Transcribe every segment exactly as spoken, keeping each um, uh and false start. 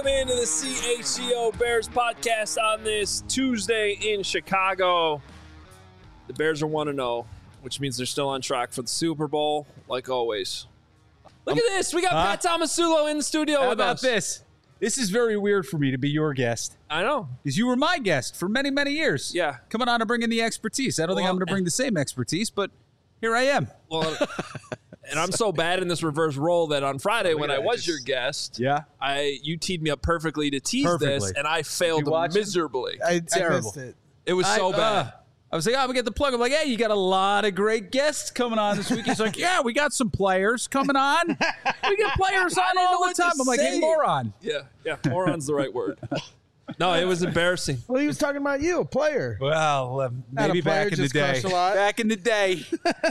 Welcome into the C H G O Bears podcast on this Tuesday in Chicago. The Bears are one and oh, which means they're still on track for the Super Bowl, like always. Look um, at this. We got huh? Pat Tomasulo in the studio How with about us. this? This is very weird for me to be your guest. I know. Because you were my guest for many, many years. Yeah. Coming on to bring in the expertise. I don't well, think I'm going to bring the same expertise, but here I am. Well, and I'm so bad in this reverse role that on Friday when I was your guest, yeah, I you teed me up perfectly to tease perfectly. this, and I failed miserably. I, Terrible. I missed it. It was so I, bad. Uh, I was like, oh, we get the plug. I'm like, hey, you got a lot of great guests coming on this week. He's like, yeah, we got some players coming on. We get players on all the time. I'm like, hey, moron. Yeah, yeah, moron's the right word. No, it was embarrassing. Well, he was talking about you, a player. Well, uh, maybe player, back in the day. Back in the day.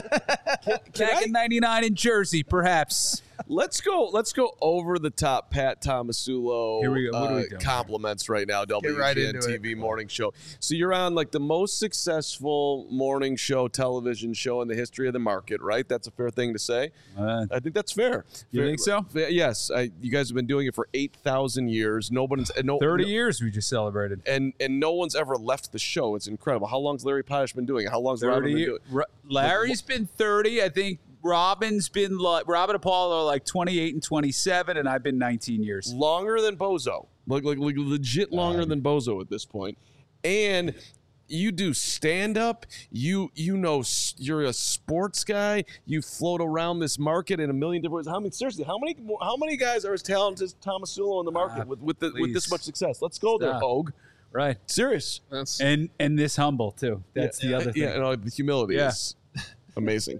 Back in ninety-nine in Jersey, perhaps. Let's go. Let's go over the top. Pat Tomasulo. Here we go. What uh, are we doing? Compliments right now. W G N right into T V it. morning show. So you're on like the most successful morning show, television show in the history of the market, right? That's a fair thing to say. Uh, I think that's fair. You fair, think so? Fair, yes. I, you guys have been doing it for eight thousand years. Nobody's no thirty no, years we just celebrated, and and no one's ever left the show. It's incredible. How long's Larry Potash been doing it? How long's Robin been doing it? Larry's been thirty. I think Robin's been like Robin and Paul are like twenty-eight and twenty-seven, and I've been nineteen years. Longer than Bozo, like like, like legit longer um, than Bozo at this point. And you do stand up. You you know you're a sports guy. You float around this market in a million different ways. How many seriously? How many how many guys are as talented as Tomasulo in the market uh, with with the, with this much success? Let's go there, Hogue. Right, serious. That's, and and this humble too. That's yeah, the other thing. Yeah, and the humility yeah. is amazing.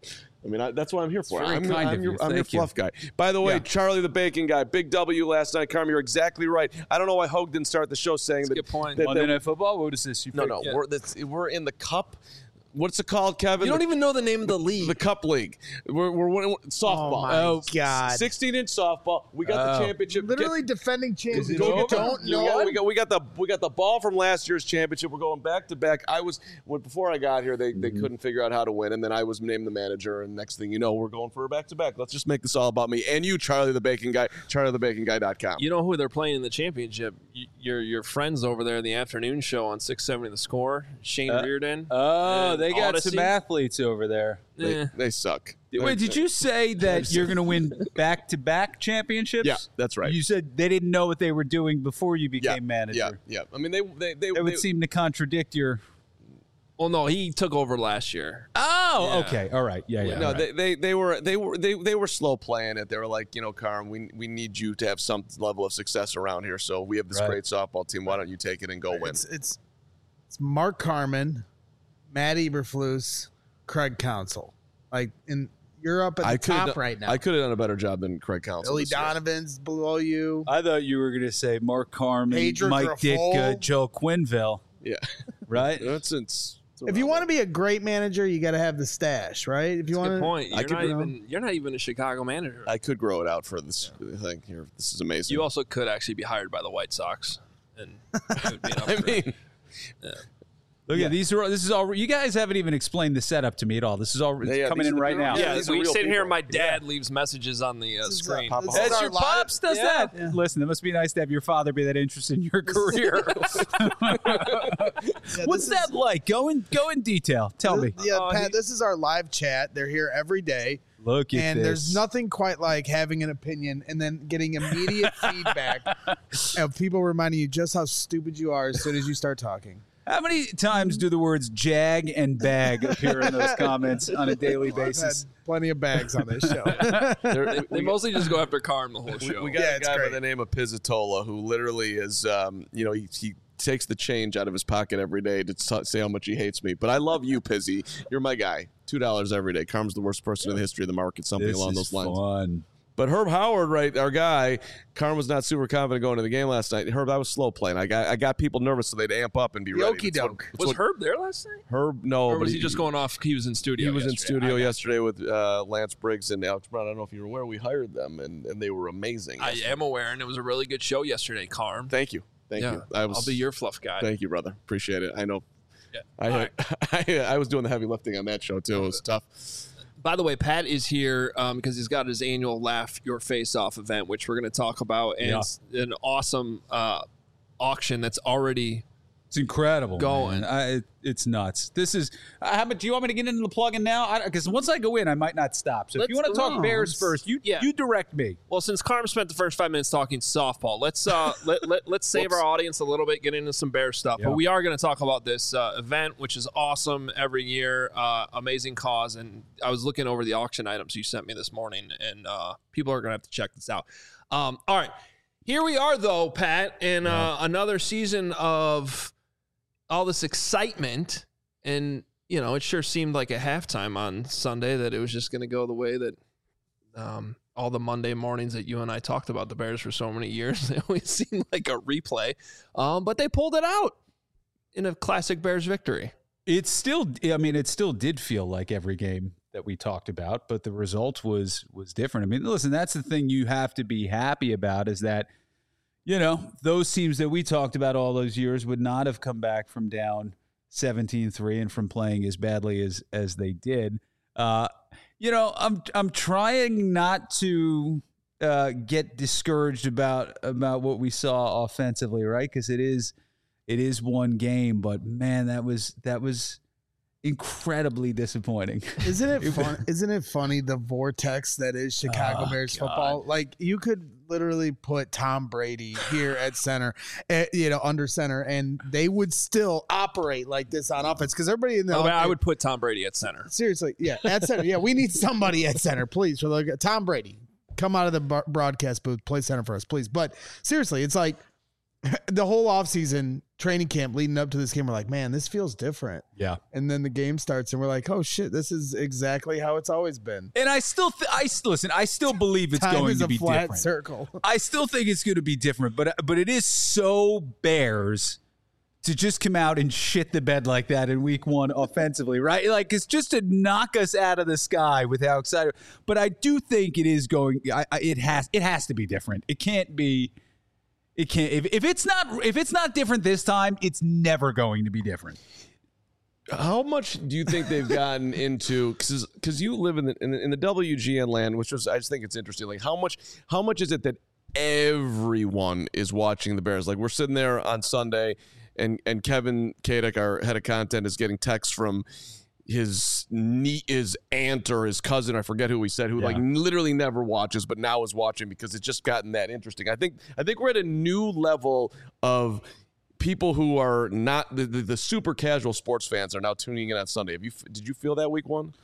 I mean, I, that's what I'm here for. I'm, kind I'm, of your, you. I'm your fluff you. guy. By the way, yeah. Charlie the Bacon Guy, big W last night. Carmen, you're exactly right. I don't know why Hogue didn't start the show saying that's that. Good point. That, Monday that, Night Football. What is this? You no, picked? no, yeah. we're that's, we're in the Cup. What's it called, Kevin? You don't the, even know the name of the league. The Cup League. We're we're winning softball. Oh my oh, God! sixteen inch softball. We got oh. the championship. Literally get, defending champions. Go Don't the, know. We got, we got we got the we got the ball from last year's championship. We're going back to back. I was when before I got here, they, they mm-hmm. couldn't figure out how to win, and then I was named the manager. And next thing you know, we're going for a back to back. Let's just make this all about me and you, Charlie the Bacon Guy. Charlie the Bacon Guy dot com. You know who they're playing in the championship? Your your friends over there in the afternoon show on six seventy The Score. Shane uh, Reardon. Oh, they got Odyssey. some athletes over there. They, eh. they suck. Wait, did you say that you're going to win back-to-back championships? Yeah, that's right. You said they didn't know what they were doing before you became yeah, manager. Yeah, yeah. I mean, they they they, it would they, seem to contradict your. Well, no, he took over last year. Oh, yeah. okay, all right, yeah, yeah. No, right. they, they they were they were they they were slow playing it. They were like, you know, Carm, we we need you to have some level of success around here. So we have this right. great softball team. Why don't you take it and go win? It's it's, it's Mark Carman, Matt Eberflus, Craig Counsell. Like, in you're up at the I top done, right now. I could have done a better job than Craig Counsell. Billy Donovan's below you. I thought you were going to say Mark Carman, Pedro Mike Grifol. Ditka, Joe Quinville. Yeah, right. That's it's. If you want to be a great manager, you got to have the stash, right? If you want good to, point. You're I not could, even you're not even a Chicago manager. I could grow it out for this yeah. thing here. This is amazing. You also could actually be hired by the White Sox, and it would be an I mean, yeah. Look yeah. at these are this is all you guys haven't even explained the setup to me at all. This is all yeah, yeah, coming in right now. Yeah, yeah we sit people. here. My dad yeah. leaves messages on the uh, screen. Our, That's your pops does yeah. that. Yeah. Listen, it must be nice to have your father be that interested in your career. yeah, What's that is, like? Go in go in detail. Tell this, me. Yeah, oh, Pat. he, this is our live chat. They're here every day. Look at and this. there's nothing quite like having an opinion and then getting immediate feedback of people reminding you just how stupid you are as soon as you start talking. How many times do the words jag and bag appear in those comments on a daily well, basis? I've had plenty of bags on this show. they, they mostly just go after Carm the whole show. We, we got yeah, a guy great. by the name of Pizzatola who literally is, um, you know, he, he takes the change out of his pocket every day to t- say how much he hates me. But I love you, Pizzy. You're my guy. Two dollars every day. Carm's the worst person in the history of the market. Something this along is those lines. Fun. But Herb Howard, right, our guy, Carm was not super confident going to the game last night. Herb, I was slow playing. I got I got people nervous so they'd amp up and be ready. Okey doke. Was what, Herb there last night? Herb, no. Or but was he, he just going off? He was in studio. He was yesterday. in studio yesterday with uh, Lance Briggs and Alex Brown. I don't know if you were aware. We hired them, and, and they were amazing. I am aware, and it was a really good show yesterday, Carm. Thank you. Thank yeah, you. I was, I'll be your fluff guy. Thank you, brother. Appreciate it. I know. Yeah. I, right. I I was doing the heavy lifting on that show too. It was tough. By the way, Pat is here um, because he's got his annual Laugh Your Face Off event, which we're going to talk about, and Yeah. it's an awesome uh, auction that's already It's incredible. Going. man. I, it, it's nuts. This is. Uh, how about? Do you want me to get into the plug-in now? Because once I go in, I might not stop. So if you Let's- want to talk no, Bears let's- first, you yeah. you direct me. Well, since Carm spent the first five minutes talking softball, let's uh, let, let, let's save Whoops. our audience a little bit, get into some Bears stuff. Yeah. But we are going to talk about this uh, event, which is awesome every year, uh, amazing cause. And I was looking over the auction items you sent me this morning, and uh, people are going to have to check this out. Um, all right. Here we are, though, Pat, in uh, another season of all this excitement. And, you know, it sure seemed like a halftime on Sunday that it was just going to go the way that um, all the Monday mornings that you and I talked about the Bears for so many years. They always seemed like a replay. Um, but they pulled it out in a classic Bears victory. It's still. I mean, it still did feel like every game that we talked about, but the result was was different. I mean, listen, that's the thing you have to be happy about is that, you know, those teams that we talked about all those years would not have come back from down seventeen three and from playing as badly as as they did. Uh, you know, I'm I'm trying not to uh, get discouraged about about what we saw offensively, right? Because it is it is one game, but man, that was that was incredibly disappointing. Isn't it fun? Isn't it funny the vortex that is Chicago Oh, Bears God. football? Like you could literally put Tom Brady here at center, eh, you know, under center, and they would still operate like this on offense because everybody in the Oh, I would put Tom Brady at center. seriously, yeah, at center. Yeah, we need somebody at center, please. For like Tom Brady, come out of the bar- broadcast booth, play center for us, please. But seriously, it's like the whole offseason training camp leading up to this game, we're like, man, this feels different. Yeah. And then the game starts, and we're like, oh shit, this is exactly how it's always been. And I still, th- I listen. I still believe it's Time going is to a be flat different. circle. I still think it's going to be different, but but it is so Bears to just come out and shit the bed like that in week one offensively, right? Like it's just to knock us out of the sky with how excited. But I do think it is going. I, I, it has. It has to be different. It can't be. It can't. If, if it's not. If it's not different this time, it's never going to be different. How much do you think they've gotten into? Because because you live in the, in the in the W G N land, which was I just think it's interesting. Like how much how much is it that everyone is watching the Bears? Like we're sitting there on Sunday, and and Kevin Kadek, our head of content, is getting texts from his nie- his aunt or his cousin, I forget who he said, who Yeah. like literally never watches, but now is watching because it's just gotten that interesting. I think I think we're at a new level of people who are not the, the, the super casual sports fans are now tuning in on Sunday. Have you did you feel that week one?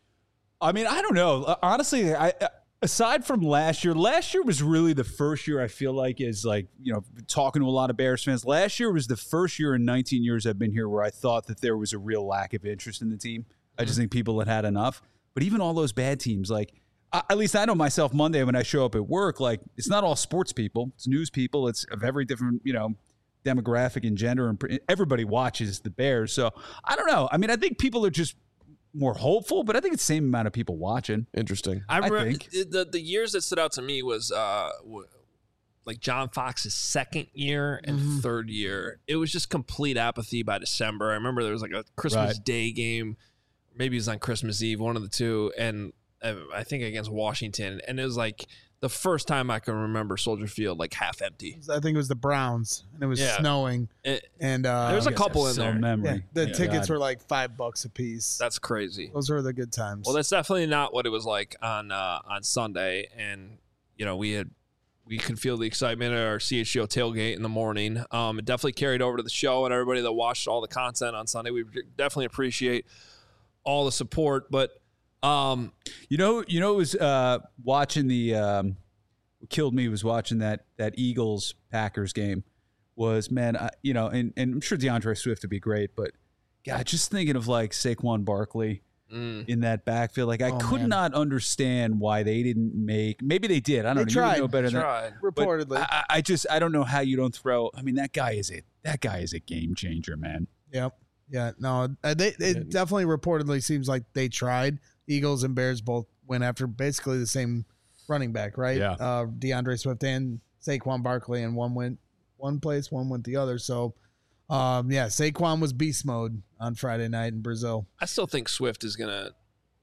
I mean, I don't know. Uh, Honestly, I uh, aside from last year, last year was really the first year I feel like is like, you know, talking to a lot of Bears fans. Last year was the first year in nineteen years I've been here where I thought that there was a real lack of interest in the team. I just think people had had enough. But even all those bad teams, like I, at least I know myself Monday when I show up at work, like it's not all sports people, it's news people, it's of every different, you know, demographic and gender, and pre- everybody watches the Bears. So I don't know. I mean, I think people are just more hopeful, but I think it's the same amount of people watching. Interesting. I, I remember think. the the years that stood out to me was uh, w- like John Fox's second year and Mm-hmm. third year. It was just complete apathy by December. I remember there was like a Christmas Right. Day game, maybe it was on Christmas Eve, one of the two, and uh, I think against Washington, and it was like the first time I can remember Soldier Field like half empty. I think it was the Browns, and it was Yeah. snowing, It, and uh, There was a I guess couple I have in so there. yeah, Memory. the Yeah. tickets God. were like five bucks a piece. that's crazy. Those were the good times. Well, that's definitely not what it was like on uh, on Sunday, and you know we had we could feel the excitement at our C H G O tailgate in the morning. Um, it definitely carried over to the show, and everybody that watched all the content on Sunday, we definitely appreciate all the support. But um, You know, you know, it was uh, watching the um, what killed me was watching that that Eagles Packers game. Was man, I, you know, and, and I'm sure DeAndre Swift would be great, but God, just thinking of like Saquon Barkley mm, in that backfield, like I Oh, could man. not understand why they didn't make. Maybe they did. I don't They know. You tried. would know better than. tried. but Reportedly, I, I just I don't know how you don't throw. I mean, that guy is a that guy is a game changer, man. yep, yeah, no, uh, they it definitely reportedly seems like they tried. Eagles and Bears both went after basically the same running back, right? Yeah. uh, DeAndre Swift and Saquon Barkley, and one went one place, one went the other. So, um, yeah, Saquon was beast mode on Friday night in Brazil. I still think Swift is gonna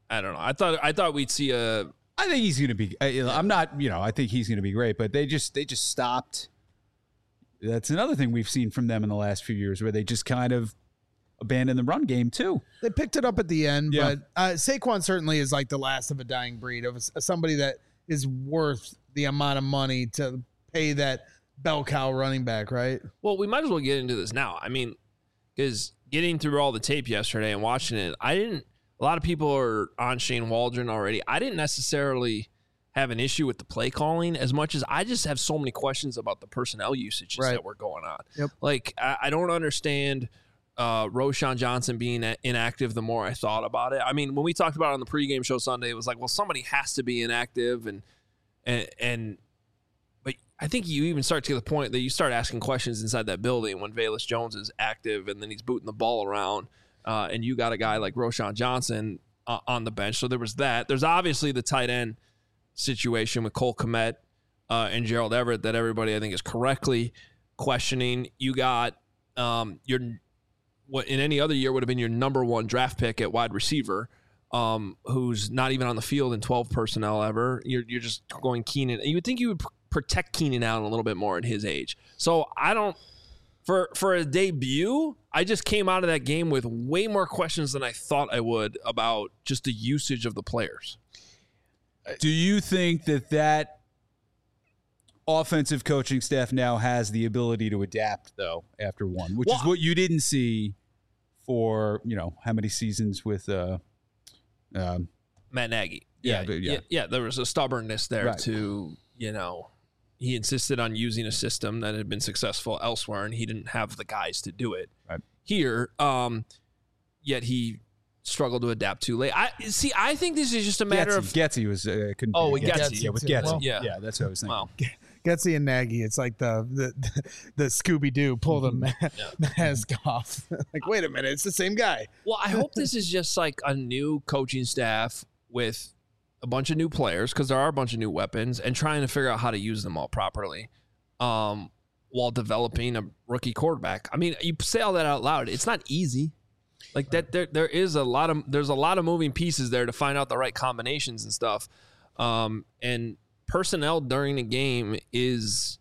I don't know. I thought I thought we'd see a. I think he's going to be. I'm not. You know, I think he's going to be great. But they just they just stopped. That's another thing we've seen from them in the last few years, where they just kind of abandoned the run game too. They picked it up at the end, Yeah. but uh, Saquon certainly is like the last of a dying breed of a- somebody that is worth the amount of money to pay that bell cow running back, right? Well, we might as well get into this now. I mean, because getting through all the tape yesterday and watching it, I didn't. A lot of people are on Shane Waldron already. I didn't necessarily have an issue with the play calling as much as I just have so many questions about the personnel usages Right. that were going on. Yep. Like, I, I don't understand uh, Roschon Johnson being a- inactive the more I thought about it. I mean, when we talked about it on the pregame show Sunday, it was like, well, somebody has to be inactive. And, and, and but I think you even start to get the point that you start asking questions inside that building when Velus Jones is active and then he's booting the ball around. Uh, and you got a guy like Roschon Johnson uh, on the bench. So there was that. There's obviously the tight end situation with Cole Kmet uh, and Gerald Everett that everybody I think is correctly questioning. You got um, your what in any other year would have been your number one draft pick at wide receiver, um, who's not even on the field in twelve personnel ever. You're you're just going Keenan. You would think you would pr- protect Keenan Allen a little bit more at his age. So I don't. For for a debut, I just came out of that game with way more questions than I thought I would about just the usage of the players. Do you think that that offensive coaching staff now has the ability to adapt, though, after one, which Well, is what you didn't see for, you know, how many seasons with uh, um, Matt Nagy. Yeah, Yeah, but yeah. yeah, yeah, there was a stubbornness there Right. to, you know, he insisted on using a system that had been successful elsewhere, and he didn't have the guys to do it Right. here. Um, yet he struggled to adapt too late. I see. I think this is just a matter Getsy. of Getsy was uh, couldn't Oh, yeah, Getsy. yeah, with too. Getsy. Well, yeah. yeah, that's what I was thinking. well, Getsy and Nagy, it's like the the, the Scooby Doo pull the ma- mask off. Like, wait a minute, it's the same guy. Well, I hope this is just like a new coaching staff with a bunch of new players, because there are a bunch of new weapons, and trying to figure out how to use them all properly um, while developing a rookie quarterback. I mean, you say all that out loud. It's not easy. Like that, there there is a lot of there's a lot of moving pieces there to find out the right combinations and stuff. Um, and personnel during the game is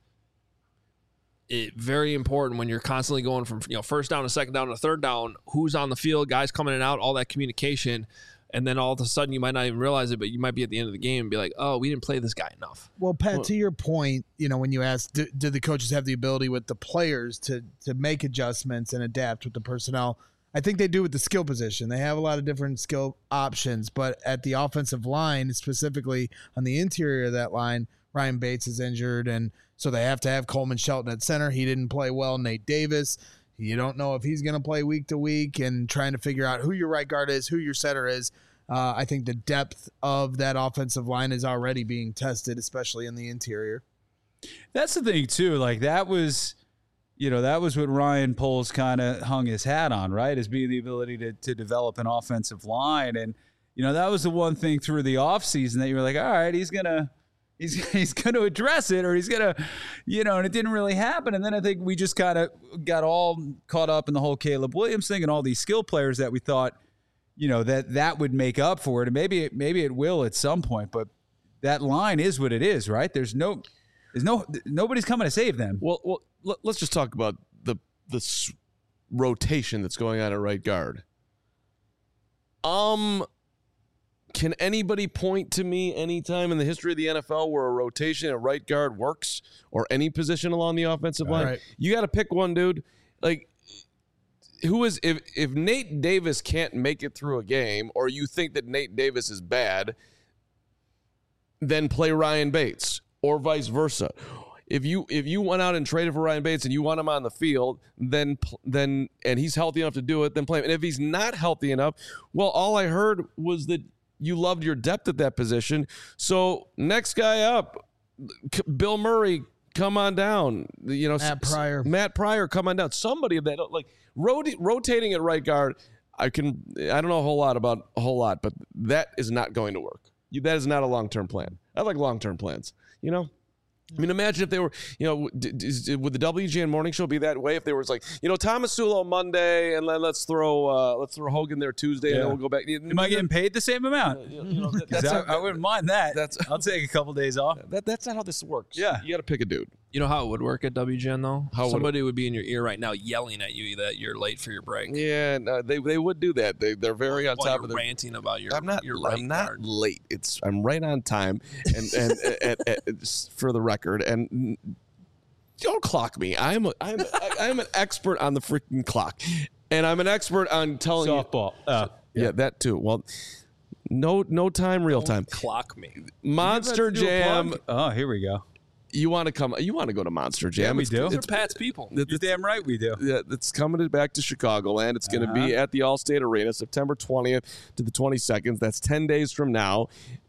it, very important when you're constantly going from you know first down to second down to third down. Who's on the field, guys coming in and out, all that communication, and then all of a sudden you might not even realize it, but you might be at the end of the game and be like, oh, we didn't play this guy enough. Well, Pat, to your point, you know, when you asked, do, do the coaches have the ability with the players to to make adjustments and adapt with the personnel? I think they do with the skill position. They have a lot of different skill options, but at the offensive line, specifically on the interior of that line, Ryan Bates is injured, and so they have to have Coleman Shelton at center. He didn't play well. Nate Davis, you don't know if he's going to play week to week, and trying to figure out who your right guard is, who your center is. Uh, I think the depth of that offensive line is already being tested, especially in the interior. That's the thing too. Like that was, you know, that was what Ryan Poles kind of hung his hat on, right? Is being the ability to to develop an offensive line, and you know that was the one thing through the offseason that you were like, all right, he's gonna. He's he's going to address it, or he's going to, you know, and it didn't really happen. And then I think we just kind of got all caught up in the whole Caleb Williams thing and all these skill players that we thought, you know, that that would make up for it. And maybe it, maybe it will at some point, but that line is what it is, right? There's no, there's no, nobody's coming to save them. Well, well, let- let's just talk about the the s- rotation that's going on at right guard. Um, can anybody point to me any time in the history of the N F L where a rotation at right guard works, or any position along the offensive line? Right. You got to pick one, dude. Like, who is if if Nate Davis can't make it through a game, or you think that Nate Davis is bad, then play Ryan Bates, or vice versa. If you if you went out and traded for Ryan Bates and you want him on the field, then then and he's healthy enough to do it, then play him. And if he's not healthy enough, well, all I heard was that you loved your depth at that position. So next guy up, Bill Murray, come on down. You know, Matt Pryor. Matt Pryor, come on down. Somebody of that, like rot- rotating at right guard. I can. I don't know a whole lot about a whole lot, but that is not going to work. You, that is not a long term plan. I like long term plans. You know. I mean, imagine if they were, you know, d- d- would the W G N morning show be that way? If there was like, you know, Tomasulo Monday, and then let's throw uh, let's throw Hogan there Tuesday, Yeah. and then we'll go back. Am I getting paid the same amount? You know, that- 'Cause that's I, how- I wouldn't mind that. that's- I'll take a couple days off. that, that's not how this works. Yeah. You got to pick a dude. You know how it would work at W G N though? How would it- Somebody would be in your ear right now yelling at you that you're late for your break. Yeah, no, they they would do that. They they're very on While top you're of their. ranting about your. I'm not. Your right I'm not guard. late. It's I'm right on time, and and at, at, at, for the record, and don't clock me. I'm a, I'm a, I'm an expert on the freaking clock, and I'm an expert on telling Softball. you. Uh, yeah. that too. Well, no no time, real time. Clock me. Monster Do a Jam. plug? Oh, here we go. You want to come? You want to go to Monster Jam? Yeah, we It's- do. Those are It's, Pat's people. it's, You're damn right we do. Yeah, it's coming back to Chicagoland. It's going to be Uh-huh. at the Allstate Arena, September twentieth to the twenty-second. That's ten days from now.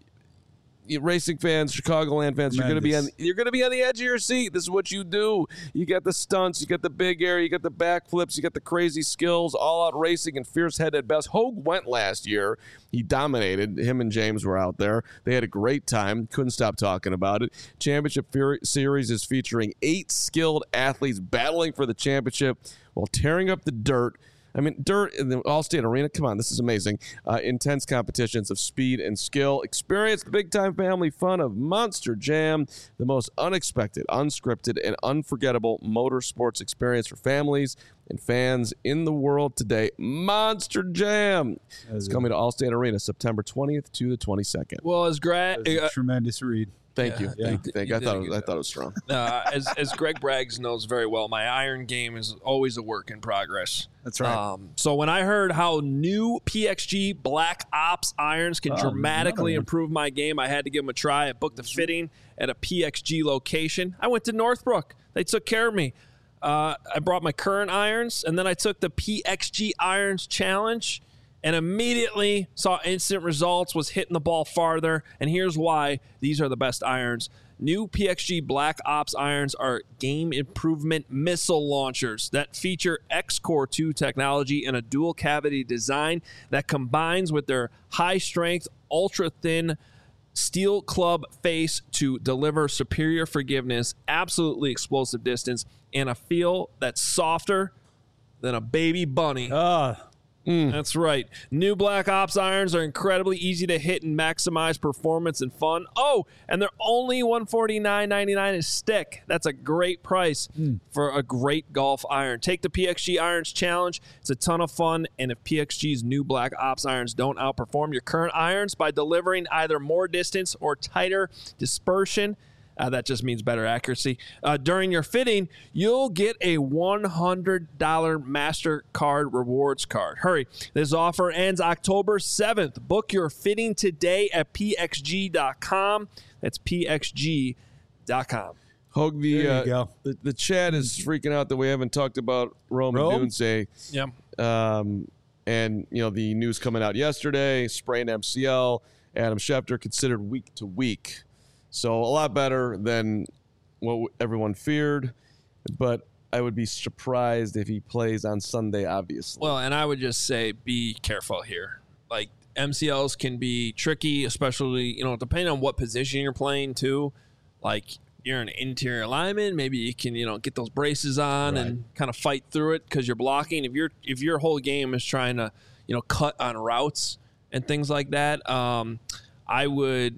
You racing fans, Chicagoland fans, you're going to be on. Tremendous. You're going to be on the edge of your seat. This is what you do. You get the stunts, you get the big air, you get the backflips, you get the crazy skills, all out racing and fierce head at best. Hogue went last year. He dominated. Him and James were out there. They had a great time. Couldn't stop talking about it. Championship Fury Series is featuring eight skilled athletes battling for the championship while tearing up the dirt. I mean, dirt in the Allstate Arena. Come on, this is amazing. Uh, intense competitions of speed and skill. Experience the big-time family fun of Monster Jam, the most unexpected, unscripted, and unforgettable motorsports experience for families and fans in the world today. Monster Jam is coming to Allstate Arena September twentieth to the twenty-second. Well, as Greg, That was a uh, tremendous read. Thank you. Yeah. Thank you. Thank you. You I did thought a it was, good I job. thought it was strong. uh, as as Greg Braggs knows very well, my iron game is always a work in progress. That's right. Um, so when I heard how new P X G Black Ops irons can Oh, dramatically another one. improve my game, I had to give them a try. I booked a fitting at a P X G location. I went to Northbrook. They took care of me. Uh, I brought my current irons, and then I took the P X G Irons Challenge, and immediately saw instant results, was hitting the ball farther. And here's why these are the best irons. New P X G Black Ops irons are game improvement missile launchers that feature X Core two technology and a dual cavity design that combines with their high strength, ultra thin steel club face to deliver superior forgiveness, absolutely explosive distance, and a feel that's softer than a baby bunny. Oh, That's right. New Black Ops irons are incredibly easy to hit and maximize performance and fun. Oh, and they're only one hundred forty-nine ninety-nine a stick. That's a great price for a great golf iron. Take the P X G Irons Challenge. It's a ton of fun. And if P X G's new Black Ops irons don't outperform your current irons by delivering either more distance or tighter dispersion, Uh, that just means better accuracy. Uh, during your fitting, you'll get a one hundred dollars MasterCard rewards card. Hurry. This offer ends October seventh. Book your fitting today at P X G dot com. That's P X G dot com. Hogue, the, There you uh, go. the the chat is freaking out that we haven't talked about Rome, Rome? and Doomsday. Yeah. Um, and, you know, the news coming out yesterday, sprained M C L, Adam Schefter considered week to week. So a lot better than what everyone feared. But I would be surprised if he plays on Sunday, obviously. Well, and I would just say be careful here. Like, M C Ls can be tricky, especially, you know, depending on what position you're playing, too. Like, you're an interior lineman, maybe you can, you know, get those braces on Right. and kind of fight through it because you're blocking. If you're if your whole game is trying to, you know, cut on routes and things like that, um, I would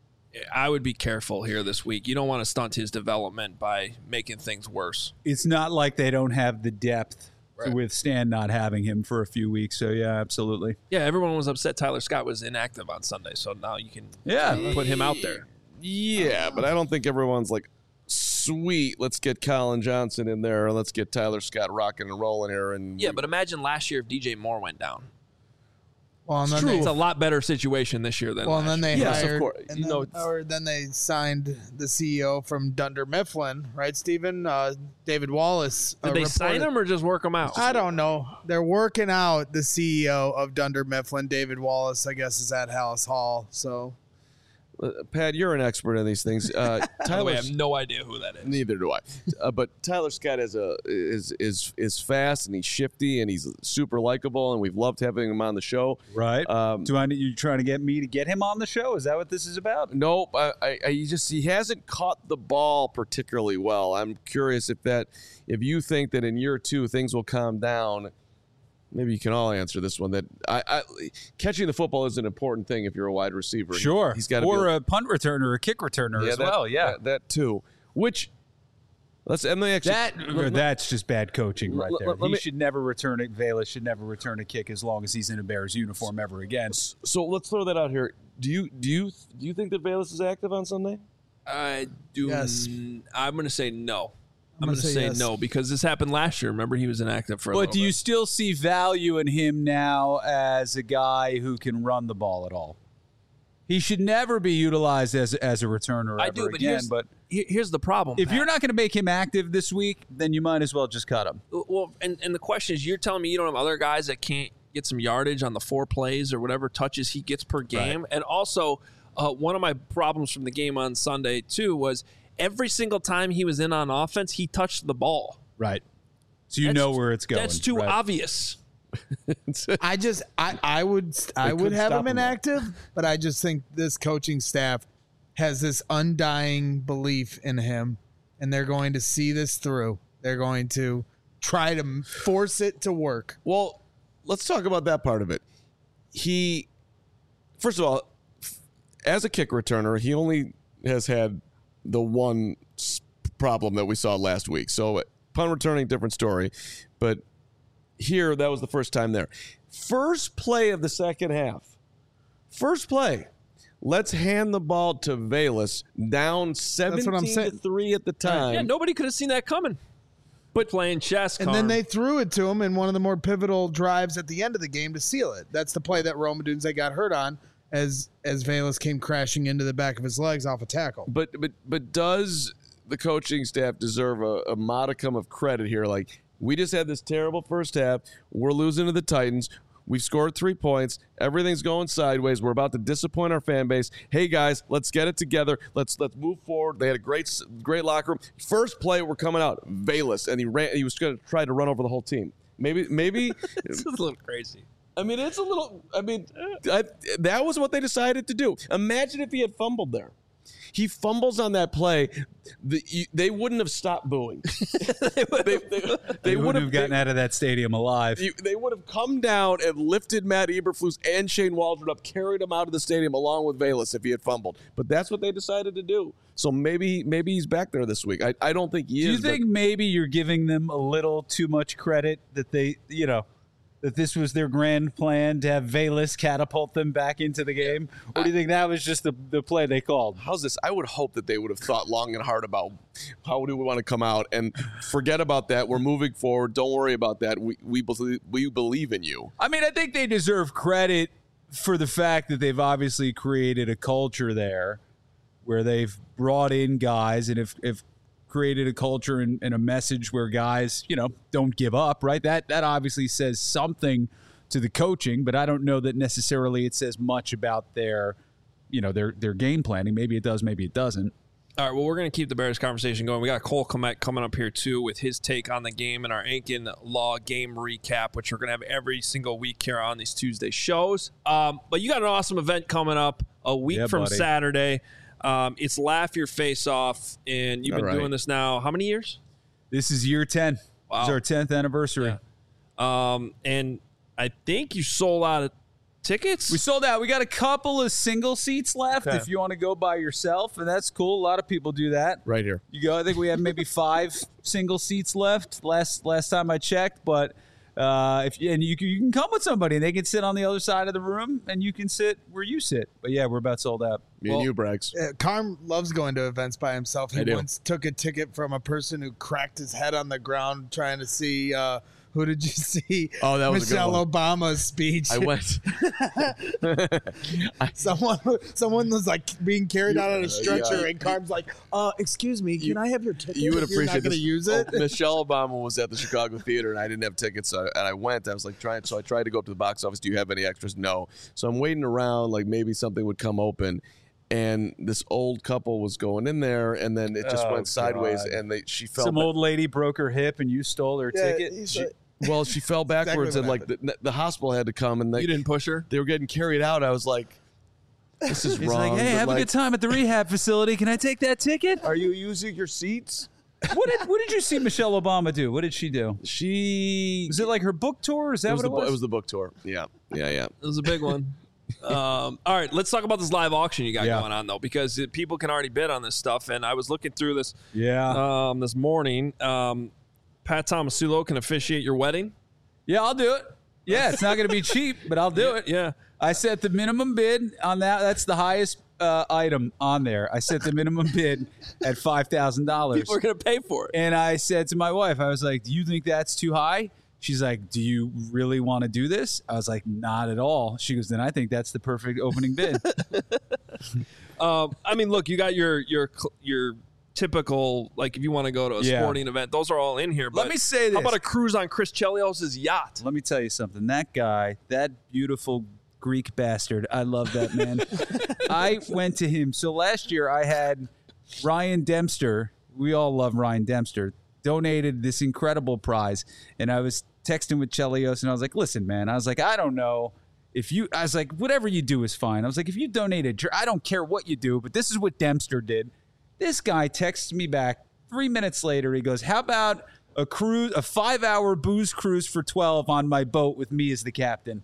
I would be careful here this week. You don't want to stunt his development by making things worse. it's not like they don't have the depth Right. to withstand not having him for a few weeks. So yeah, absolutely. Yeah, everyone was upset Tyler Scott was inactive on Sunday, so now you can Yeah. put him out there. Yeah, but I don't think everyone's like, sweet, let's get Colin Johnson in there, and let's get Tyler Scott rocking and rolling here. And Yeah, but imagine last year if D J Moore went down. Well, and then True, they, it's a lot better situation this year than well, and last then year. they Yes, of hired, course. and You then, know, it's- or then they signed the C E O from Dunder Mifflin, right, Stephen? Uh, David Wallace. Did uh, they sign reported- him or just work him out? I don't know. They're working out the C E O of Dunder Mifflin, David Wallace. I guess is at Hallis Hall. So Uh, Pat, you're an expert in these things. Uh, Tyler, I Tyler, have no idea who that is. neither do I. Uh, but Tyler Scott is a is is is fast and he's shifty and he's super likable and we've loved having him on the show. Right. Um, Do I? You trying to get me to get him on the show? Is that what this is about? Nope. I, I, I he just he hasn't caught the ball particularly well. I'm curious if that if you think that in year two things will calm down. Maybe you can all answer this one. That I, I catching the football is an important thing if you're a wide receiver. Sure. He's got to or be a punt returner, or a kick returner yeah, as that, well. Yeah. that, that too. Which let's and they actually That let- let- that's just bad coaching right let- there. let- let he me- should never return it. Bayless should never return a kick as long as he's in a Bears uniform ever again. So let's throw that out here. Do you do you do you think that Bayless is active on Sunday? I do. Yes. n- I'm going to say no. I'm, I'm going to gonna say, say yes. no because this happened last year. Remember, he was inactive for a But little do you bit. still see value in him now as a guy who can run the ball at all? He should never be utilized as as a returner I ever do, but again. here's, But here- here's the problem. if Pat. you're not going to make him active this week, then you might as well just cut him. Well, and, and the question is, you're telling me you don't have other guys that can't get some yardage on the four plays or whatever touches he gets per game? And also, uh, one of my problems from the game on Sunday, too, was every single time he was in on offense, he touched the ball. Right. So you That's- know where it's going. That's too right? obvious. I just I I would I They would couldn't have stop him him, though. inactive, but I just think this coaching staff has this undying belief in him, and they're going to see this through. They're going to try to force it to work. Well, let's talk about that part of it. He, first of all, as a kick returner, he only has had the one s- problem that we saw last week. So punt returning, different story. But here, that was the first time there. First play of the second half. First play. Let's hand the ball to Bayless down seventeen I'm to saying. three at the time. Yeah, nobody could have seen that coming. But playing chess, And then they threw it to him in one of the more pivotal drives at the end of the game to seal it. That's the play that Rome Odunze got hurt on as as Bayless came crashing into the back of his legs off a tackle. But but but does the coaching staff deserve a, a modicum of credit here? Like, we just had this terrible first half. We're losing to the Titans. We've scored three points. Everything's going sideways. We're about to disappoint our fan base. Hey guys, let's get it together. Let's let's move forward. They had a great great locker room. First play, we're coming out. Bayless, and he ran. He was going to try to run over the whole team. Maybe maybe. it's a little crazy. I mean, it's a little. I mean, I, that was what they decided to do. Imagine if he had fumbled there. He fumbles on that play. The, you, they wouldn't have stopped booing. they they, they, they They would wouldn't have gotten they, out of that stadium alive. you- they would have come down and lifted Matt Eberflus and Shane Waldron up, carried him out of the stadium along with Bayless if he had fumbled. But that's what they decided to do. So maybe maybe he's back there this week. I, I don't think he Do is. you think maybe you're giving them a little too much credit that they, you know, that this was their grand plan to have Bayless catapult them back into the game? Or do you think that was just the, the play they called? But how's this? I would hope that they would have thought long and hard about how do we want to come out and forget about that. We're moving forward. Don't worry about that. We we believe, we believe in you. I mean, I think they deserve credit for the fact that they've obviously created a culture there where they've brought in guys and if if created a culture and, and a message where guys, you know, don't give up, right? That that obviously says something to the coaching, but I don't know that necessarily it says much about their, you know, their their game planning. Maybe it does, maybe it doesn't. All right, well, we're going to keep the Bears conversation going. We got Cole Kmet coming up here, too, with his take on the game and our Aiken Law game recap, which we're going to have every single week here on these Tuesday shows. Um, but you got an awesome event coming up a week Yeah, from buddy. Saturday. Um, it's Laugh Your Face Off, and you've All been right. doing this now how many years? This is year ten. Wow. This is our tenth anniversary. Yeah. Um, and I think you sold out of tickets. We sold out. We got a couple of single seats left Okay. if you want to go by yourself, and that's cool. A lot of people do that. Right here. You go. I think we have maybe five single seats left. Last last time I checked, but uh, if and you can, you can come with somebody, and they can sit on the other side of the room, and you can sit where you sit. But yeah, we're about sold out. Me Well- and you, Braggs. Uh, Carm loves going to events by himself. He I do. once took a ticket from a person who cracked his head on the ground trying to see. Uh, who did you see? Oh, that was a good Michelle one. Obama's speech. I went. someone, someone was like being carried out on a stretcher, yeah. and Carm's like, "Uh, excuse me, can You- I have your ticket? You would You're not appreciate going to this. use Oh, it." Michelle Obama was at the Chicago Theater, and I didn't have tickets, so and I went. I was like trying, so I tried to go up to the box office. Do you have any extras? No. So I'm waiting around, like maybe something would come open, and this old couple was going in there, and then it just Oh, went sideways, God. and they she fell. Some ba- old lady broke her hip and you stole her ticket. she- well, she fell backwards, what and like the, the hospital had to come, and they You didn't push her? they were getting carried out. I was like, this is He's wrong. like, hey, but, have like, a good time at the rehab facility. Can I take that ticket? Are you using your seats? What did What did you see Michelle Obama do? What did she do? She Was it like her book tour? Is that it was what the, it was? It was the book tour. Yeah, yeah, yeah. It was a big one. um, all right, let's talk about this live auction you got Yeah. going on, though, because it, people can already bid on this stuff. And I was looking through this yeah. um, this morning. Um, Pat Tomasulo can officiate your wedding. Yeah, I'll do it. Yeah, it's not going to be cheap, but I'll do it. Yeah. I set the minimum bid on that. That's the highest uh, item on there. I set the minimum bid at five thousand dollars. People are going to pay for it. And I said to my wife, I was like, do you think that's too high? She's like, do you really want to do this? I was like, not at all. She goes, then I think that's the perfect opening bid. Um, I mean, look, you got your your cl- your typical, like, if you want to go to a Yeah. sporting event, those are all in here. But Let me say this. How about a cruise on Chris Chelios' yacht? Let me tell you something. That guy, that beautiful Greek bastard, I love that man. I went to him. So last year I had Ryan Dempster. We all love Ryan Dempster. Donated this incredible prize. And I was texting with Chelios and I was like, listen, man, I was like, I don't know if you, I was like, whatever you do is fine. I was like, if you donated, I don't care what you do, but this is what Dempster did. This guy texts me back three minutes later. He goes, how about a cruise, a five hour booze cruise for twelve on my boat with me as the captain?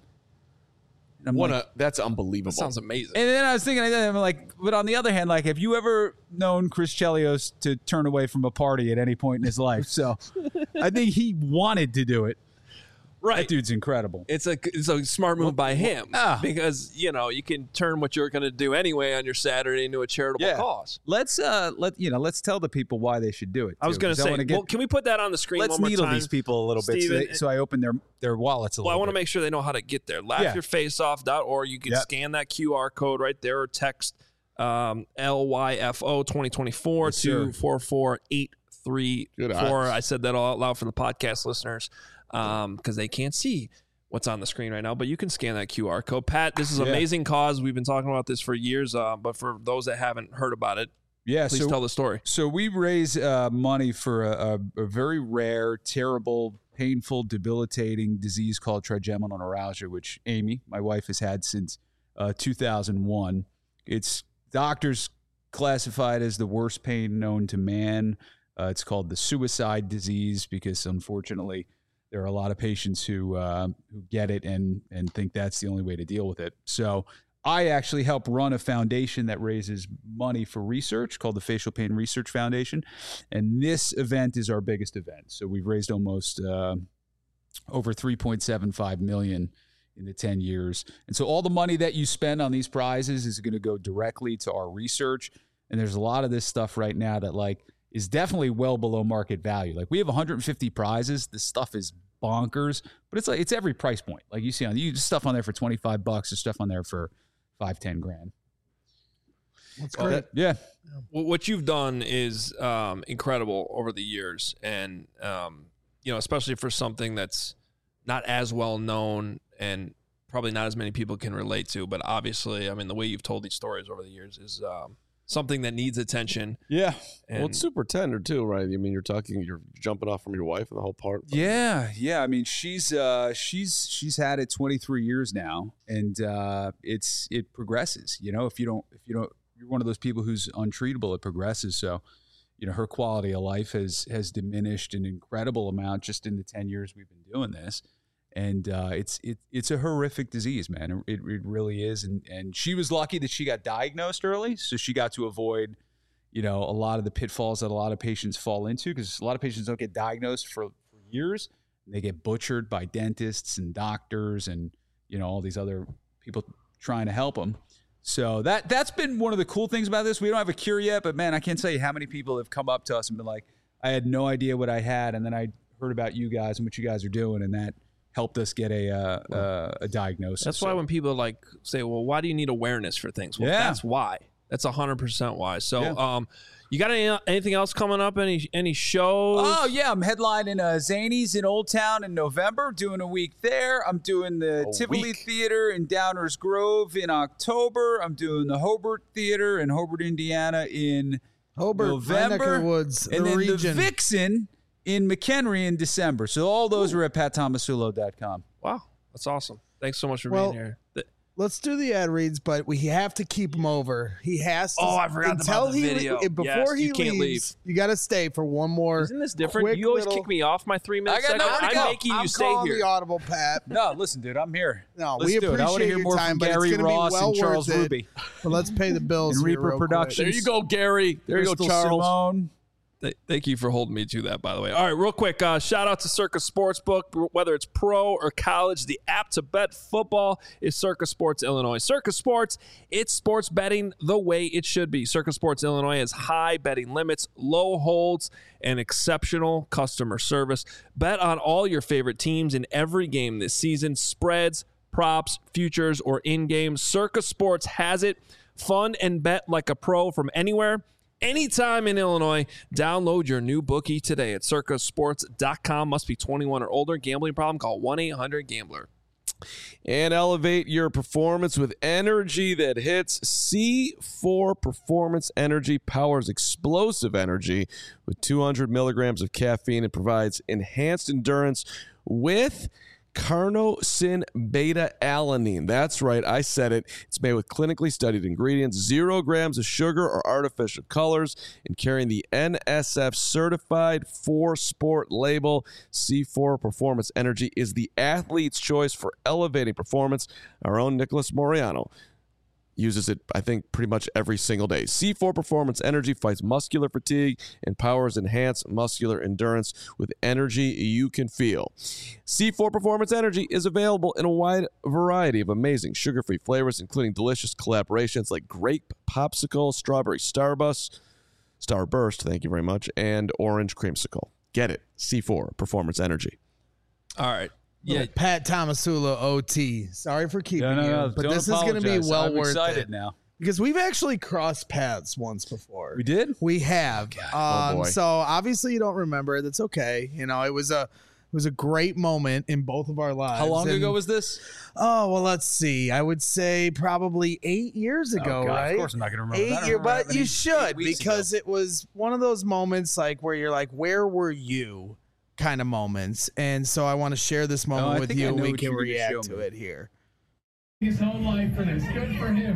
And I'm What like, a that's unbelievable. That sounds amazing. and then I was thinking, I'm like, but on the other hand, like, have you ever known Chris Chelios to turn away from a party at any point in his life? So I think he wanted to do it. That Right. dude's incredible. It's a it's a smart move by him Ah. because, you know, you can turn what you're going to do anyway on your Saturday into a charitable Yeah. cause. Let's uh let you know, let's tell the people why they should do it. I was too, going 'cause to say, wanna get- well, can we put that on the screen let's one more needle time? these people a little bit so, Steven, they, so I open their their wallets a Well, I little want to bit. make sure they know how to get there. laugh Yeah. your face off dot org. You can Yep. scan that Q R code right there or text um, L Y F O twenty twenty-four Yes, to sir. four four eight three Good four. eyes. I said that all out loud for the podcast listeners because they can't see what's on the screen right now, but you can scan that Q R code. Pat, this is an Yeah. amazing cause. We've been talking about this for years, uh, but for those that haven't heard about it, Yeah, please so tell the story. So we raise uh, money for a, a, a very rare, terrible, painful, debilitating disease called trigeminal neuralgia, which Amy, my wife, has had since uh, two thousand one. It's doctors classified as the worst pain known to man. Uh, it's called the suicide disease because, unfortunately, there are a lot of patients who uh, who get it and and think that's the only way to deal with it. So I actually help run a foundation that raises money for research called the Facial Pain Research Foundation. And this event is our biggest event. So we've raised almost uh, over three point seven five million dollars in the ten years. And so all the money that you spend on these prizes is going to go directly to our research. And there's a lot of this stuff right now that like is definitely well below market value. Like we have one hundred fifty prizes. This stuff is bonkers, but it's like it's every price point. Like you see on you stuff on there for twenty-five bucks, there's stuff on there for five, ten grand. That's Well, great. Yeah. Well, what you've done is um, incredible over the years, and um, you know, especially for something that's not as well known and probably not as many people can relate to. But obviously, I mean, the way you've told these stories over the years is um, something that needs attention. Yeah. And Well, it's super tender too, right? I mean, you're talking, you're jumping off from your wife and the whole part. Yeah, yeah. I mean, she's uh, she's she's had it twenty-three years now, and uh, it's it progresses. You know, if you don't if you don't you're one of those people who's untreatable, it progresses. So, you know, her quality of life has has diminished an incredible amount just in the ten years we've been doing this. And uh, it's it, it's a horrific disease, man. It, it really is. And and she was lucky that she got diagnosed early, so she got to avoid, you know, a lot of the pitfalls that a lot of patients fall into, because a lot of patients don't get diagnosed for, for years. And they get butchered by dentists and doctors and, you know, all these other people trying to help them. So that that's been one of the cool things about this. We don't have a cure yet, but man, I can't tell you how many people have come up to us and been like, I had no idea what I had, and then I heard about you guys and what you guys are doing, and that helped us get a uh, uh, a diagnosis. that's why So- when people like say, "Well, why do you need awareness for things?" Well, Yeah. that's why. That's one hundred percent why. So, Yeah. um, you got any, anything else coming up? Any any shows? Oh, yeah. I'm headlining uh, Zanies in Old Town in November, doing a week there. I'm doing the A Tivoli week. Theater in Downers Grove in October. I'm doing the Hobart Theater in Hobart, Indiana in Hobart, my neck of November. the woods, and the then region. the Vixen in McHenry in December. So all those are at pat tomasulo dot com. Wow, that's awesome. Thanks so much for Well, being here. Th- Let's do the ad reads, but we have to keep him over. He has to. Oh, I forgot until about the he video. le- before Yes, he you can't leaves, you got to stay for one more. Isn't this different? quick You always little- kick me off my three minutes. I got nowhere to I'm go. making you I'm stay calling here. the audible, Pat. No, listen, dude, I'm here. No, Let's we do it. I appreciate want to hear your more time, from but Gary it's gonna Ross be well and Charles worth it. Ruby. But let's pay the bills. And here Reaper real quick. Productions. There you go, Gary. There you Crystal go, Charles. Simone. Th- Thank you for holding me to that, by the way. All right, real quick, uh, shout out to Circa Sportsbook. Whether it's pro or college, the app to bet football is Circa Sports Illinois. Circa Sports, it's sports betting the way it should be. Circa Sports Illinois has high betting limits, low holds, and exceptional customer service. Bet on all your favorite teams in every game this season. Spreads, props, futures, or in-game. Circa Sports has it. Fun and bet like a pro from anywhere, anytime in Illinois. Download your new bookie today at circa sports dot com. Must be twenty-one or older. Gambling problem? Call one eight hundred gambler. And elevate your performance with energy that hits. C four Performance Energy powers explosive energy with two hundred milligrams of caffeine and provides enhanced endurance with carnosine beta-alanine. That's right, I said it. It's made with clinically studied ingredients, zero grams of sugar or artificial colors, and carrying the N S F certified for sport label. C four Performance Energy is the athlete's choice for elevating performance. Our own Nicholas Moriano uses it, I think, pretty much every single day. C four Performance Energy fights muscular fatigue and powers enhanced muscular endurance with energy you can feel. C four Performance Energy is available in a wide variety of amazing sugar-free flavors, including delicious collaborations like grape popsicle, strawberry starburst, starburst, thank you very much, and orange creamsicle. Get it. C four Performance Energy. All right. Yeah, Pat Tomasula, O T. Sorry for keeping No, no, you, no, but don't this is going to be apologize. well I'm worth excited it now. because we've actually crossed paths once before. We did? We have. Oh, Um, boy. so obviously you don't remember. That's okay. You know, it was a it was a great moment in both of our lives. How long And- ago was this? Oh well, let's see. I would say probably eight years ago, Oh, God, right? Of course I'm not going to remember. I Eight don't years, remember but having you eight- should eight weeks because ago. it was one of those moments like where you're like, where were you? Kind of moments, and so I want to share this moment I with think I you, and know we what can you're gonna show react to me. it here. His whole life for this. Good for him.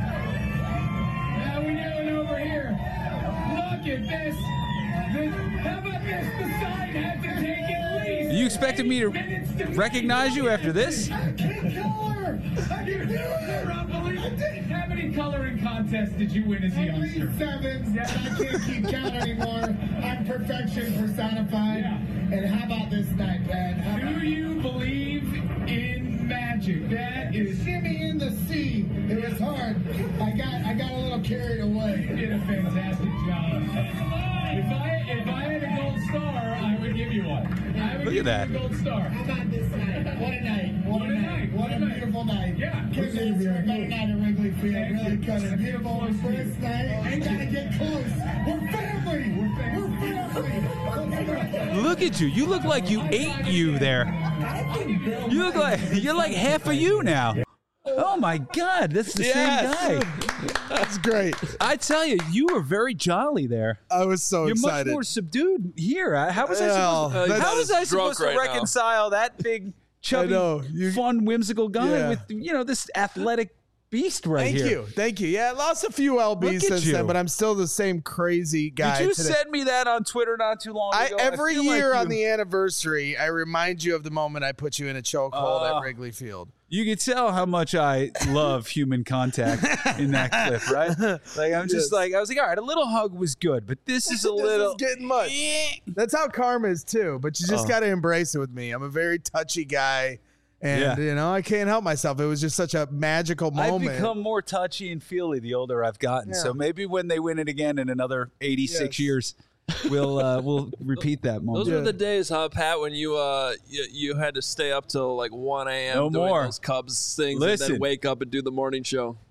Now we doing over here. Look at this. This- How about this? The sign had to take at least. You expected me to minutes to recognize you after this? I can't color. I can do it. Rob, believe it. How many coloring contests did you win as a youngster? Seven. Yeah. I can't keep count anymore. I'm perfection personified. Yeah. And how about this night, Pat? How Do about you believe in magic? That is. shimmy in the sea? It was hard. I got I got a little carried away. You did a fantastic job. If I if I had a gold star, I would give you one. I would Look give at that. you a gold star. How about this night? What a night. What, a night. What a beautiful night. Yeah. Couldn't ask for a better night at Wrigley Field. Thank Really you. couldn't. Beautiful Thank you. first night. I gotta get close. We're family. We're family. We're family. Look at you. You look like you ate you there. You look like you're like half of you now. Oh my God, that's the Yes. same guy. That's great. I tell you, you were very jolly there. I was so You're excited. much more subdued here. Uh, How was I Well, supposed to, that's- how was I drunk supposed to right now. reconcile that big, chubby, know. You- fun, whimsical guy Yeah. with you know this athletic beast right Thank here? you, thank you. Yeah, I lost a few L Bs Look at since you. then, but I'm still the same crazy guy. Did you today. send me that on Twitter not too long I, ago? every feel like year you- on the anniversary, I remind you of the moment I put you in a chokehold Uh, at Wrigley Field. You can tell how much I love human contact in that clip, right? Like I'm just Yes. like I was like, all right, a little hug was good, but this is a This little. is getting much. That's how karma is too, but you just Oh. got to embrace it with me. I'm a very touchy guy, and Yeah. you know I can't help myself. It was just such a magical I've moment. become more touchy and feely the older I've gotten. Yeah. So maybe when they win it again in another eighty-six Yes. years, we'll uh, we'll repeat that moment. Those Yeah. were the days, huh, Pat, when you uh you, you had to stay up till like one a.m. No doing more. those Cubs things and Listen. then wake up and do the morning show.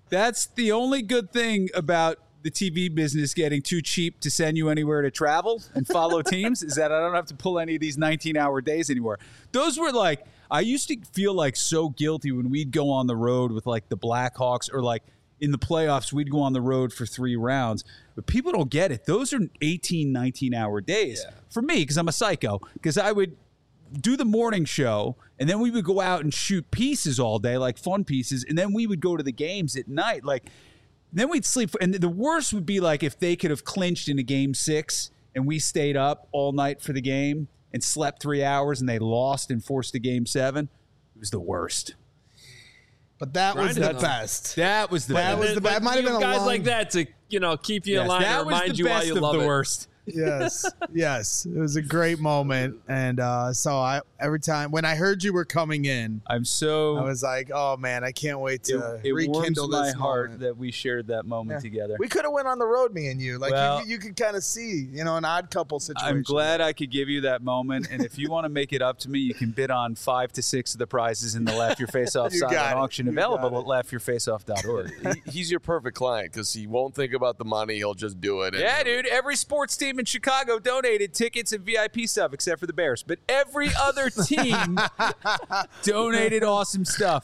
That's the only good thing about the T V business getting too cheap to send you anywhere to travel and follow teams is that I don't have to pull any of these nineteen-hour days anymore. Those were like, I used to feel like so guilty when we'd go on the road with like the Blackhawks or like in the playoffs, we'd go on the road for three rounds. But people don't get it. Those are eighteen, nineteen-hour days yeah. for me because I'm a psycho because I would do the morning show and then we would go out and shoot pieces all day, like fun pieces, and then we would go to the games at night. Like, then we'd sleep. And the worst would be like if they could have clinched in a game six and we stayed up all night for the game and slept three hours and they lost and forced a game seven. It was the worst. But that was Grinding the them. best. That was the That best. was the best. It might have been a guys long- like that to you know keep you Yes, in line that and was remind the you why best you of love the it. worst. Yes, yes. It was a great moment. And uh, so I every time when I heard you were coming in, I'm so. I was like, oh, man, I can't wait to it, it rekindle warms this my heart moment. that we shared that moment Yeah. together. We could have went on the road, me and you. Like Well, you, you could kind of see, you know, an odd couple situation. I'm glad I could give you that moment. And if you want to make it up to me, you can bid on five to six of the prizes in the Laugh Your Face Off You silent got it. auction You available got at laugh your face off dot org. He, he's your perfect client because he won't think about the money. He'll just do it. and- Yeah, dude. Every sports team in Chicago donated tickets and V I P stuff except for the Bears. But every other team donated awesome stuff.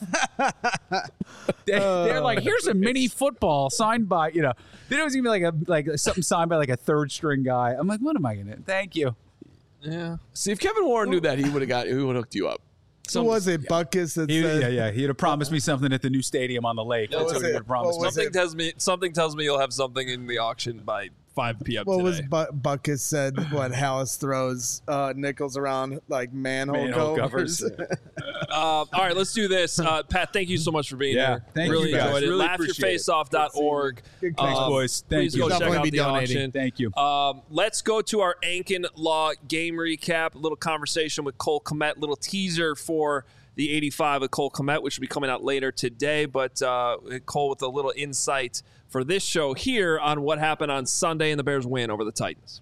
They, they're like, here's a mini football signed by, you know, they don't even like a like something signed by like a third string guy. I'm like, what am I gonna? Thank you. Yeah. See, if Kevin Warren knew that, he would have got. He would have hooked you up. Who was it? Buckus that He, said, yeah, yeah. He'd have promised me something at the new stadium on the lake. What That's was what he it? would have promised What me. was Something it? tells me something tells me you'll have something in the auction by five p.m. What was today. Bu- Buckus said? What Hallis throws uh, nickels around like manhole, Manhole covers. covers. Uh, all right, let's do this. Uh, Pat, thank you so much for being Yeah, here. thank really you, guys. enjoyed it. Really laugh your appreciate face off dot org. Good Thanks, Um, boys. Thank please you. go check Definitely out be the donating. auction. Thank you. Um, let's go to our Ankin Law game recap. A little conversation with Cole Kmet. Little teaser for the eighty-five with Cole Kmet, which will be coming out later today. But uh, Cole with a little insight for this show here on what happened on Sunday and the Bears win over the Titans.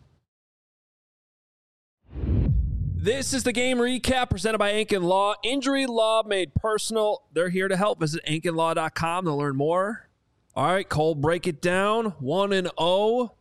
This is the game recap presented by Ankin Law. Injury law made personal. They're here to help. Visit ankin law dot com to learn more. All right, Cole, break it down. one and oh.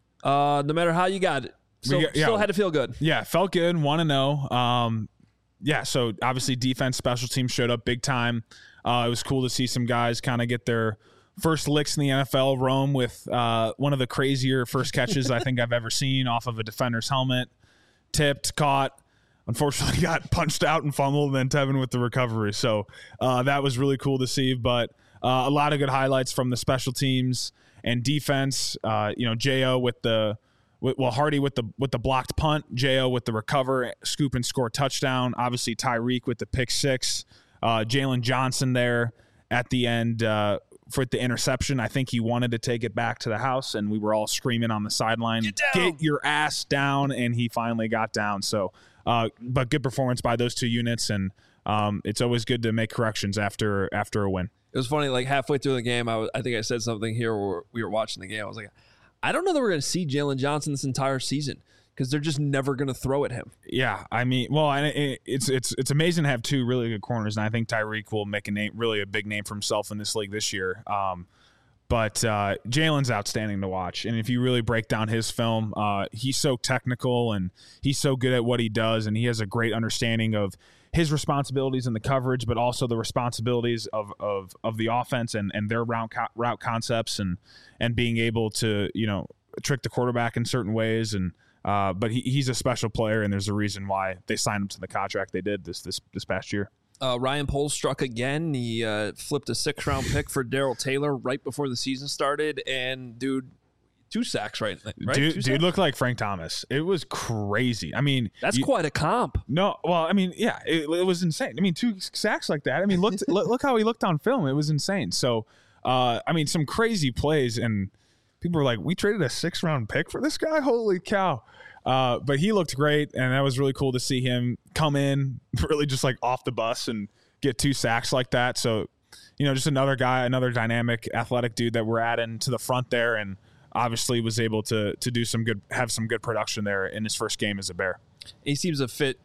Uh, no matter how you got it. So, We got- yeah. still had to feel good. Yeah, felt good. one and oh. Um, yeah, so obviously defense, special teams showed up big time. Uh, it was cool to see some guys kind of get their first licks in the N F L. Rome with uh, one of the crazier first catches I think I've ever seen off of a defender's helmet. Tipped, caught. Unfortunately, got punched out and fumbled, and then Tevin with the recovery. So uh, that was really cool to see. But uh, a lot of good highlights from the special teams and defense. Uh, you know, J O with the well, Hardy with the with the blocked punt, J O with the recover, scoop and score touchdown. Obviously, Tyreek with the pick six. Uh, Jalen Johnson there at the end uh, for the interception. I think he wanted to take it back to the house, and we were all screaming on the sideline, Get down. "Get your ass down!" And he finally got down. So. Uh, but good performance by those two units, and um, it's always good to make corrections after after a win. It was funny, like halfway through the game, I, was, I think I said something here where we were watching the game. I was like, I don't know that we're going to see Jalen Johnson this entire season because they're just never going to throw at him. Yeah, I mean, well, and it, it's it's it's amazing to have two really good corners, and I think Tyreek will make a name, really a big name for himself in this league this year. Um, But uh, Jalen's outstanding to watch. And if you really break down his film, uh, he's so technical and he's so good at what he does. And he has a great understanding of his responsibilities in the coverage, but also the responsibilities of of, of the offense and, and their route co- route concepts and and being able to, you know, trick the quarterback in certain ways. And uh, but he, he's a special player, and there's a reason why they signed him to the contract they did this this this past year. Uh, Ryan Poles struck again. He uh, flipped a six-round pick for Darrell Taylor right before the season started, and dude, two sacks, right? right? Dude, Two dude sacks? looked like Frank Thomas. It was crazy. I mean, That's you- quite a comp. No, well, I mean, yeah, it, it was insane. I mean, two sacks like that. I mean, look, look, look how he looked on film. It was insane. So, uh, I mean, some crazy plays, and people were like, "We traded a six-round pick for this guy? Holy cow!" Uh, but he looked great, and that was really cool to see him come in, really just like off the bus and get two sacks like that. So, you know, just another guy, another dynamic, athletic dude that we're adding to the front there, and obviously was able to to do some good, have some good production there in his first game as a Bear. He seems to fit you-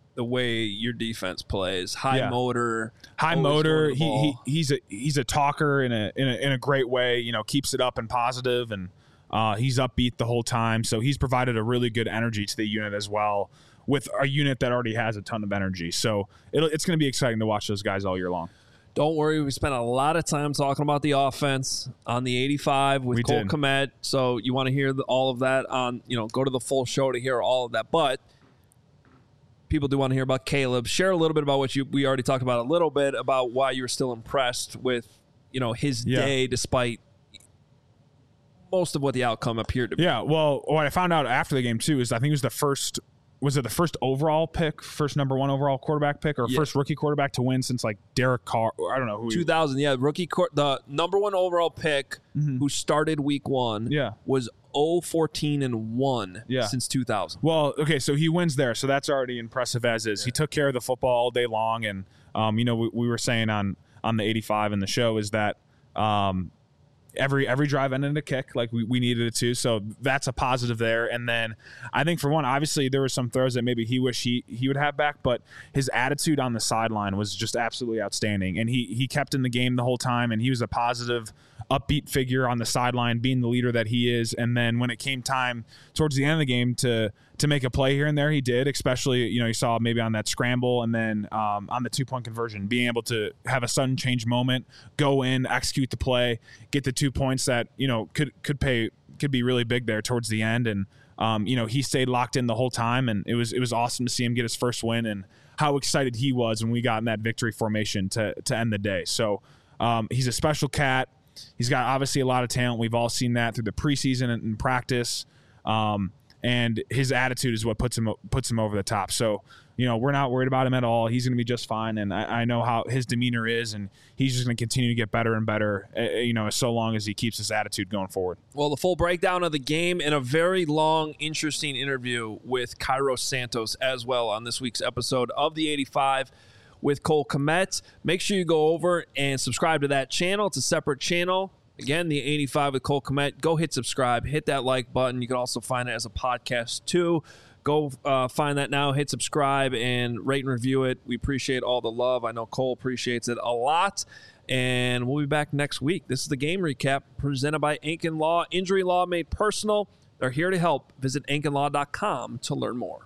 the way your defense plays. High Yeah. motor, high always motor. going to the He, he ball. he's a he's a talker in a in a in a great way. You know, keeps it up and positive, and uh, he's upbeat the whole time. So he's provided a really good energy to the unit as well, with a unit that already has a ton of energy. So it'll, it's going to be exciting to watch those guys all year long. Don't worry, we spent a lot of time talking about the offense on the eighty-five with We Cole did. Kmet. So you want to hear the, all of that on, you know, go to the full show to hear all of that. But people do want to hear about Caleb. Share a little bit about what you we already talked about a little bit about why you were still impressed with, you know, his Yeah. day despite most of what the outcome appeared to be. Yeah, well, what I found out after the game too is I think it was the first was it the first overall pick, first number one overall quarterback pick, or Yeah. first rookie quarterback to win since like Derek Carr. I don't know who. he- two thousand, yeah, rookie court, the number one overall pick who started week one Mm-hmm. Yeah. was oh fourteen and one Yeah. since two thousand. Well, okay, so he wins there, so that's already impressive as is. He took care of the football all day long, and um, you know, we, we were saying on on the eighty-five in the show is that um, every every drive ended in a kick, like we, we needed it to. So that's a positive there. And then I think for one, obviously there were some throws that maybe he wish he he would have back, but his attitude on the sideline was just absolutely outstanding. And he he kept in the game the whole time, and he was a positive, upbeat figure on the sideline, being the leader that he is. And then when it came time towards the end of the game to to make a play here and there, he did, especially, you know, you saw maybe on that scramble and then um, on the two-point conversion, being able to have a sudden change moment, go in, execute the play, get the two points that, you know, could could pay could be really big there towards the end. And um, you know, he stayed locked in the whole time, and it was it was awesome to see him get his first win and how excited he was when we got in that victory formation to to end the day. So um, he's a special cat. He's got obviously a lot of talent. We've all seen that through the preseason and, and practice. Um, and his attitude is what puts him puts him over the top. So, you know, we're not worried about him at all. He's going to be just fine. And I, I know how his demeanor is, and he's just going to continue to get better and better, uh, you know, so long as he keeps his attitude going forward. Well, the full breakdown of the game and a very long, interesting interview with Cairo Santos as well on this week's episode of the eighty-five with Cole Kmet. Make sure you go over and subscribe to that channel. It's a separate channel. Again, the eighty-five with Cole Kmet. Go hit subscribe. Hit that like button. You can also find it as a podcast too. Go uh, find that now. Hit subscribe and rate and review it. We appreciate all the love. I know Cole appreciates it a lot. And we'll be back next week. This is the game recap presented by Ankin Law. Injury law made personal. They're here to help. Visit ankin law dot com to learn more.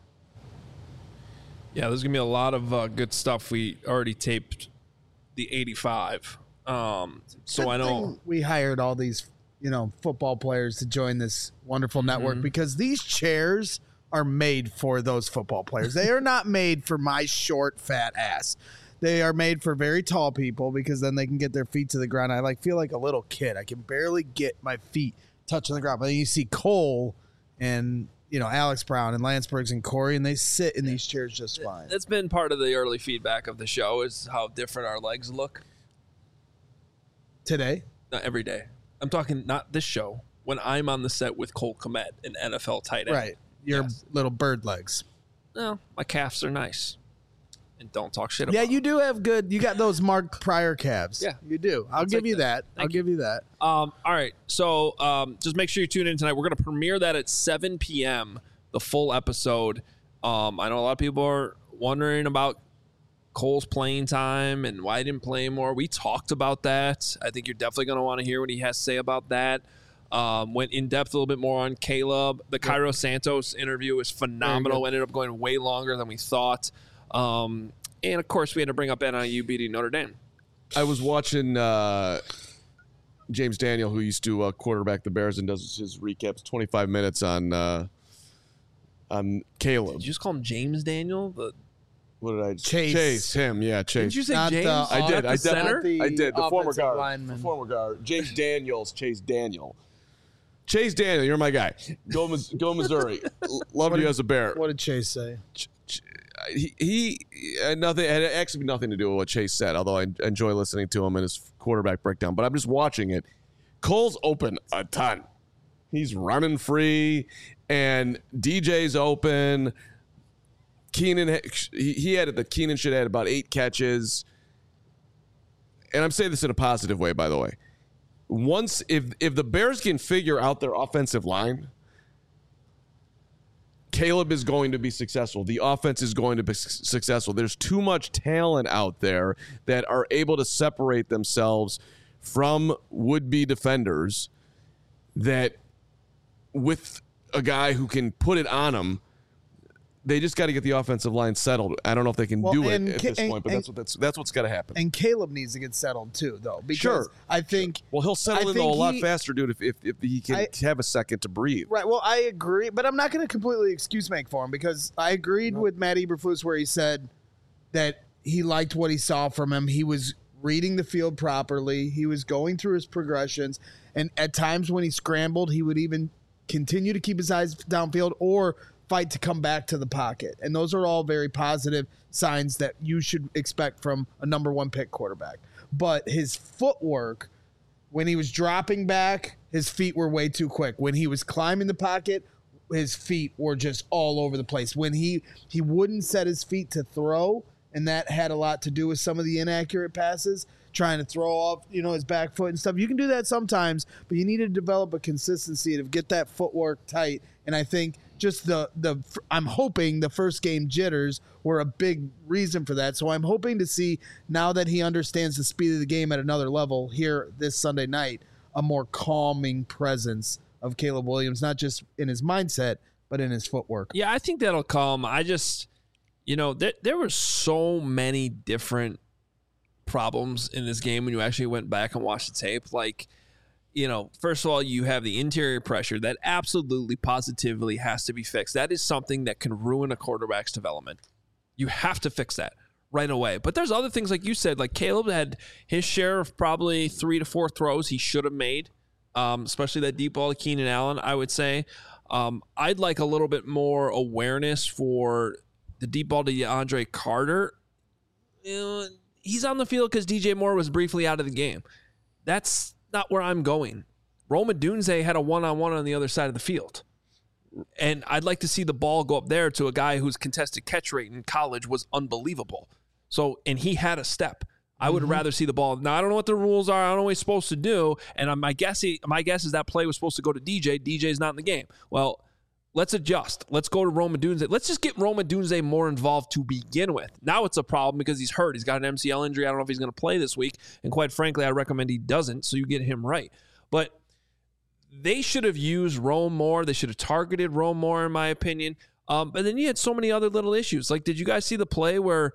Yeah, there's going to be a lot of uh, good stuff. We already taped the eighty-five. Um, so Good I know. thing we hired all these, you know, football players to join this wonderful network because these chairs are made for those football players. They are not made for my short, fat ass. They are made for very tall people because then they can get their feet to the ground. I like feel like a little kid. I can barely get my feet touching the ground. But then you see Cole and, you know, Alex Brown and Lance Briggs and Corey, and they sit in these chairs just fine. That's been part of the early feedback of the show is how different our legs look. Today, Not every day. I'm talking not this show. When I'm on the set with Cole Kmet, an N F L tight end. right? Your Yes. little bird legs. No, my calves are nice. And don't talk shit Yeah, about you do have good. You got those Mark Pryor calves. Yeah. you do. I'll I'll give take you that. that. Thank I'll give you that. Um, all right. So um, just make sure you tune in tonight. We're going to premiere that at seven p.m., the full episode. Um, I know a lot of people are wondering about Cole's playing time and why he didn't play more. We talked about that. I think you're definitely going to want to hear what he has to say about that. Um, went in depth a little bit more on Caleb. The Cairo Santos interview was phenomenal. Ended up going way longer than we thought. Um, and, of course, we had to bring up N I U beating Notre Dame. I was watching uh, James Daniel, who used to uh, quarterback the Bears and does his recaps, twenty-five minutes on uh, on Caleb. Did you just call him James Daniel? The What did I Chase. Chase him, yeah, Chase. Did you say Not the James? off- I did. Not I the did. center? the I did. The former offensive guard. lineman. The former guard. James Daniels. Chase Daniel. Chase Daniel, you're my guy. Go, Mis- go Missouri. L- Love you as a Bear. What did Chase say? Ch- ch- He, he had nothing. Had actually nothing to do with what Chase said. Although I enjoy listening to him and his quarterback breakdown. But I'm just watching it. Cole's open a ton. He's running free, and D J's open. Keenan, he, he had the Keenan should have had about eight catches. And I'm saying this in a positive way, by the way. Once, if if the Bears can figure out their offensive line, Caleb is going to be successful. The offense is going to be su- successful. There's too much talent out there that are able to separate themselves from would-be defenders that with a guy who can put it on them, they just got to get the offensive line settled. I don't know if they can Well, do it and at Ca- this and- point, but and- that's what that's that's what's got to happen. And Caleb needs to get settled too, though. Because Sure. I think. Well, he'll settle I in though a think lot he- faster, dude, if if, if he can I- have a second to breathe. Right. Well, I agree, but I'm not going to completely excuse make for him because I agreed with Matt Eberflus where he said that he liked what he saw from him. He was reading the field properly. He was going through his progressions, and at times when he scrambled, he would even continue to keep his eyes downfield or fight to come back to the pocket. And those are all very positive signs that you should expect from a number one pick quarterback. But his footwork, when he was dropping back, his feet were way too quick. When he was climbing the pocket, his feet were just all over the place. When he he wouldn't set his feet to throw, and that had a lot to do with some of the inaccurate passes, trying to throw off, you know, his back foot and stuff. You can do that sometimes, but you need to develop a consistency to get that footwork tight. And I think just the the I'm hoping the first game jitters were a big reason for that. So I'm hoping to see, now that he understands the speed of the game at another level here this Sunday night, a more calming presence of Caleb Williams, not just in his mindset, but in his footwork. Yeah, I think that'll come. I just, you know, there, there were so many different problems in this game when you actually went back and watched the tape. Like, you know, first of all, you have the interior pressure that absolutely, positively has to be fixed. That is something that can ruin a quarterback's development. You have to fix that right away. But there's other things, like you said, like Caleb had his share of probably three to four throws he should have made, um, especially that deep ball to Keenan Allen, I would say. Um, I'd like a little bit more awareness for the deep ball to DeAndre Carter. You know, he's on the field because D J Moore was briefly out of the game. That's not where I'm going. Rome Odunze had a one-on-one on the other side of the field. And I'd like to see the ball go up there to a guy whose contested catch rate in college was unbelievable. So, and he had a step. I would mm-hmm. rather see the ball. Now, I don't know what the rules are. I don't know what he's supposed to do. And my guess, my guess is that play was supposed to go to D J. D J's not in the game. Well, let's adjust. Let's go to Rome Odunze. Let's just get Rome Odunze more involved to begin with. Now it's a problem because he's hurt. He's got an M C L injury. I don't know if he's going to play this week. And quite frankly, I recommend he doesn't, so you get him right. But they should have used Rome more. They should have targeted Rome more, in my opinion. Um, but then you had so many other little issues. Like, did you guys see the play where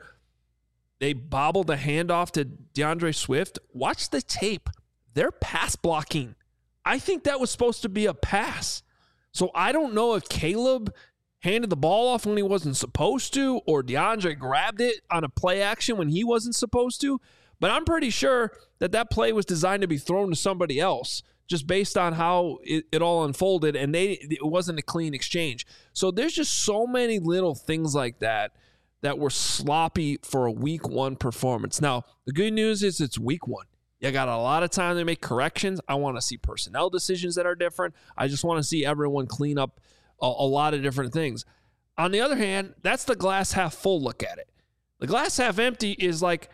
they bobbled a handoff to DeAndre Swift? Watch the tape. They're pass blocking. I think that was supposed to be a pass. So I don't know if Caleb handed the ball off when he wasn't supposed to, or DeAndre grabbed it on a play action when he wasn't supposed to. But I'm pretty sure that that play was designed to be thrown to somebody else, just based on how it, it all unfolded, and they it wasn't a clean exchange. So there's just so many little things like that that were sloppy for a week one performance. Now, the good news is it's week one. You got a lot of time to make corrections. I want to see personnel decisions that are different. I just want to see everyone clean up a, a lot of different things. On the other hand, that's the glass half full look at it. The glass half empty is like,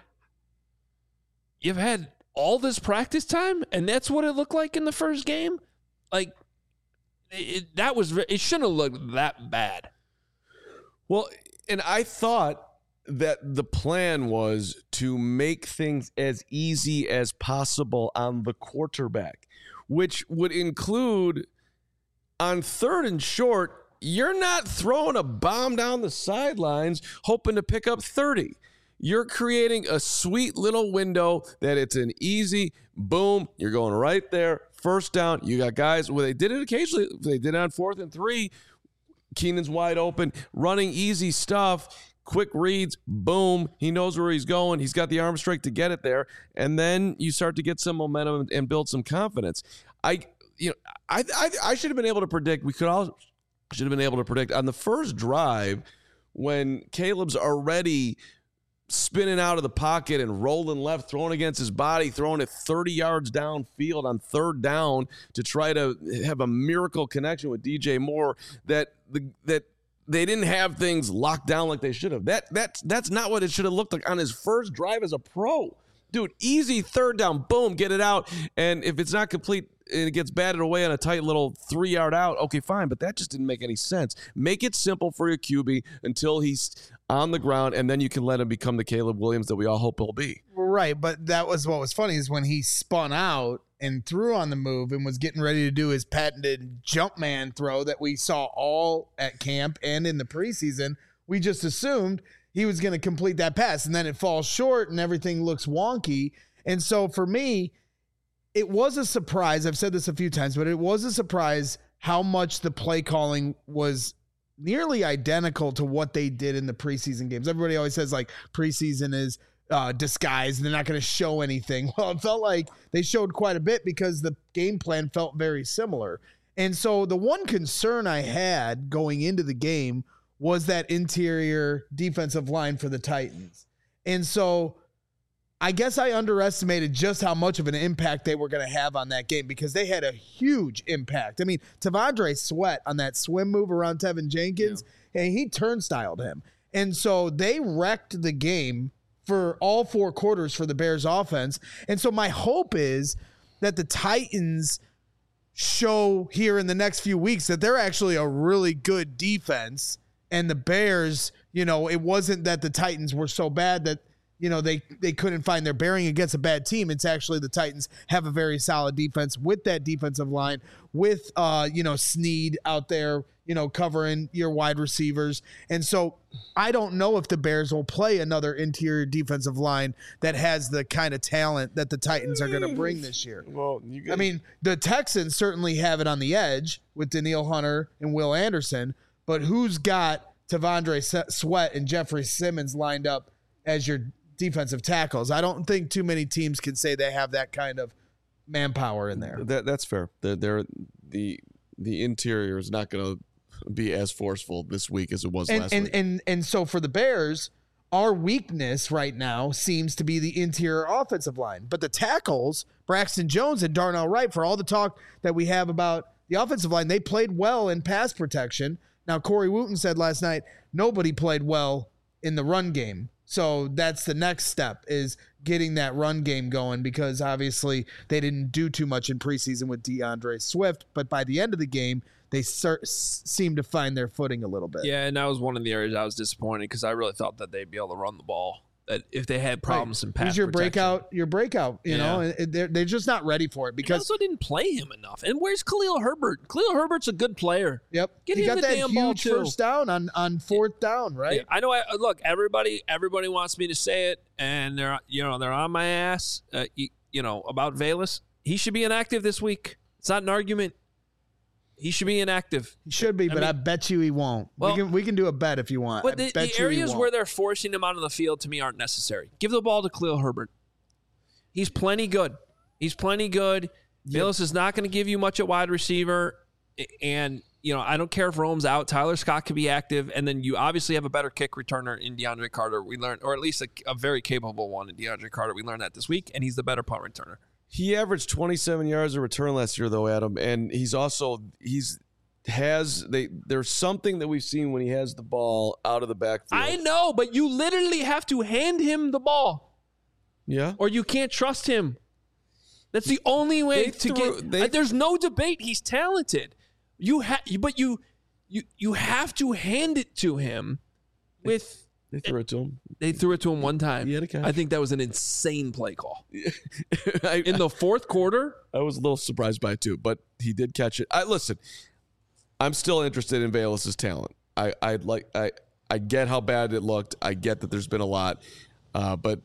you've had all this practice time, and that's what it looked like in the first game? Like, it, that was, it shouldn't have looked that bad. Well, and I thought that the plan was to make things as easy as possible on the quarterback, which would include on third and short, you're not throwing a bomb down the sidelines hoping to pick up thirty. You're creating a sweet little window that it's an easy boom. You're going right there. First down. You got guys, well, they did it occasionally. They did it on fourth and three. Keenan's wide open, running easy stuff. Quick reads, boom. He knows where he's going. He's got the arm strength to get it there. And then you start to get some momentum and build some confidence. I, you know, I, I, I should have been able to predict. We could all should have been able to predict on the first drive when Caleb's already spinning out of the pocket and rolling left, throwing against his body, throwing it thirty yards downfield on third down to try to have a miracle connection with D J Moore. That the that. They didn't have things locked down like they should have. That that's that's not what it should have looked like on his first drive as a pro. Dude, easy third down, boom, get it out. And if it's not complete and it gets batted away on a tight little three-yard out, okay, fine, but that just didn't make any sense. Make it simple for your Q B until he's on the ground, and then you can let him become the Caleb Williams that we all hope he'll be. Right, but that was what was funny is when he spun out and threw on the move and was getting ready to do his patented jump man throw that we saw all at camp and in the preseason, we just assumed he was going to complete that pass, and then it falls short and everything looks wonky. And so for me, it was a surprise. I've said this a few times, but it was a surprise how much the play calling was nearly identical to what they did in the preseason games. Everybody always says like preseason is uh, disguised. They're not going to show anything. Well, it felt like they showed quite a bit because the game plan felt very similar. And so the one concern I had going into the game was that interior defensive line for the Titans. And so I guess I underestimated just how much of an impact they were going to have on that game because they had a huge impact. I mean, T'Vondre Sweat on that swim move around Tevin Jenkins, yeah. and he turnstiled him. And so they wrecked the game for all four quarters for the Bears offense. And so my hope is that the Titans show here in the next few weeks that they're actually a really good defense. And the Bears, you know, it wasn't that the Titans were so bad that, you know, they, they couldn't find their bearing against a bad team. It's actually the Titans have a very solid defense with that defensive line, with, uh, you know, Snead out there, you know, covering your wide receivers. And so I don't know if the Bears will play another interior defensive line that has the kind of talent that the Titans are going to bring this year. Well, you guys- I mean, the Texans certainly have it on the edge with Danielle Hunter and Will Anderson, but who's got T'Vondre Sweat and Jeffrey Simmons lined up as your defensive tackles? I don't think too many teams can say they have that kind of manpower in there. That that's fair. They're, they're the the interior is not going to be as forceful this week as it was and, last and, week. And and and so for the Bears, our weakness right now seems to be the interior offensive line, but the tackles, Braxton Jones and Darnell Wright, for all the talk that we have about the offensive line, they played well in pass protection. Now, Corey Wooten said last night nobody played well in the run game. So that's the next step, is getting that run game going, because obviously they didn't do too much in preseason with DeAndre Swift, but by the end of the game, they ser- seemed to find their footing a little bit. Yeah, and that was one of the areas I was disappointed because I really thought that they'd be able to run the ball. That if they had problems right. in pass He's your protection. breakout, your breakout, you yeah. know, and they're, they're just not ready for it because they also didn't play him enough. And where's Khalil Herbert? Khalil Herbert's a good player. Yep. Get he him got the that damn huge ball too. first down on, on fourth down, right? Yeah, I know. I, look, everybody, everybody wants me to say it, and they're, you know, they're on my ass. Uh, you, you know about Velus. He should be inactive this week. It's not an argument. He should be inactive. He should be, I but mean, I bet you he won't. Well, we can we can do a bet if you want. But I the, bet the you he areas won't. where they're forcing him out of the field, to me, aren't necessary. Give the ball to Khalil Herbert. He's plenty good. He's plenty good. Yep. Velus is not going to give you much at wide receiver. And, you know, I don't care if Rome's out. Tyler Scott could be active. And then you obviously have a better kick returner in DeAndre Carter. We learned, or at least a, a very capable one in DeAndre Carter. We learned that this week, and he's the better punt returner. He averaged twenty-seven yards a return last year, though, Adam. And he's also, he's, has they there's something that we've seen when he has the ball out of the backfield. I know, but you literally have to hand him the ball. Yeah. Or you can't trust him. That's the only way They to threw- get they- uh, there's no debate. He's talented. You have but you you you have to hand it to him with They threw it to him. they threw it to him one time. He had a catch. I think that was an insane play call. I, In the fourth quarter, I was a little surprised by it too, but he did catch it. I listen. I'm still interested in Velus' talent. I I like I I get how bad it looked. I get that there's been a lot, uh, but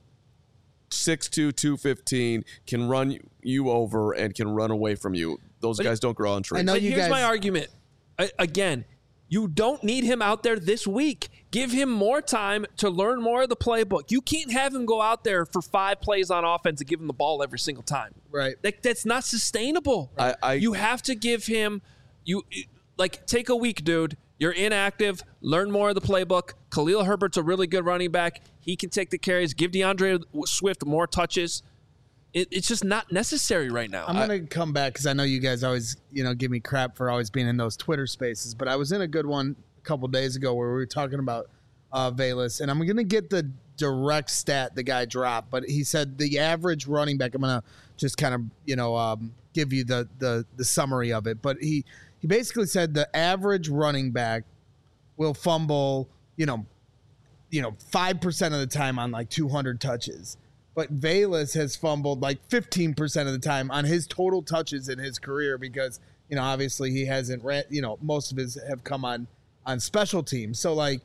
six two, two fifteen can run you over and can run away from you. Those But guys don't grow on trees. I know But you here's guys. my argument. I, again, you don't need him out there this week. Give him more time to learn more of the playbook. You can't have him go out there for five plays on offense and give him the ball every single time. Right. That, that's not sustainable. I- I- you have to give him you like take a week, dude. You're inactive. Learn more of the playbook. Khalil Herbert's a really good running back. He can take the carries. Give DeAndre Swift more touches. It, it's just not necessary right now. I'm going to come back because I know you guys always, you know, give me crap for always being in those Twitter spaces, but I was in a good one a couple days ago where we were talking about uh, Velus, and I'm going to get the direct stat the guy dropped, but he said the average running back. I'm gonna just kind of you know um, give you the the the summary of it, but he he basically said the average running back will fumble, you know, you know, five percent of the time on like two hundred touches. But Velus has fumbled like fifteen percent of the time on his total touches in his career because, you know, obviously he hasn't ran, you know, most of his have come on, on special teams. So like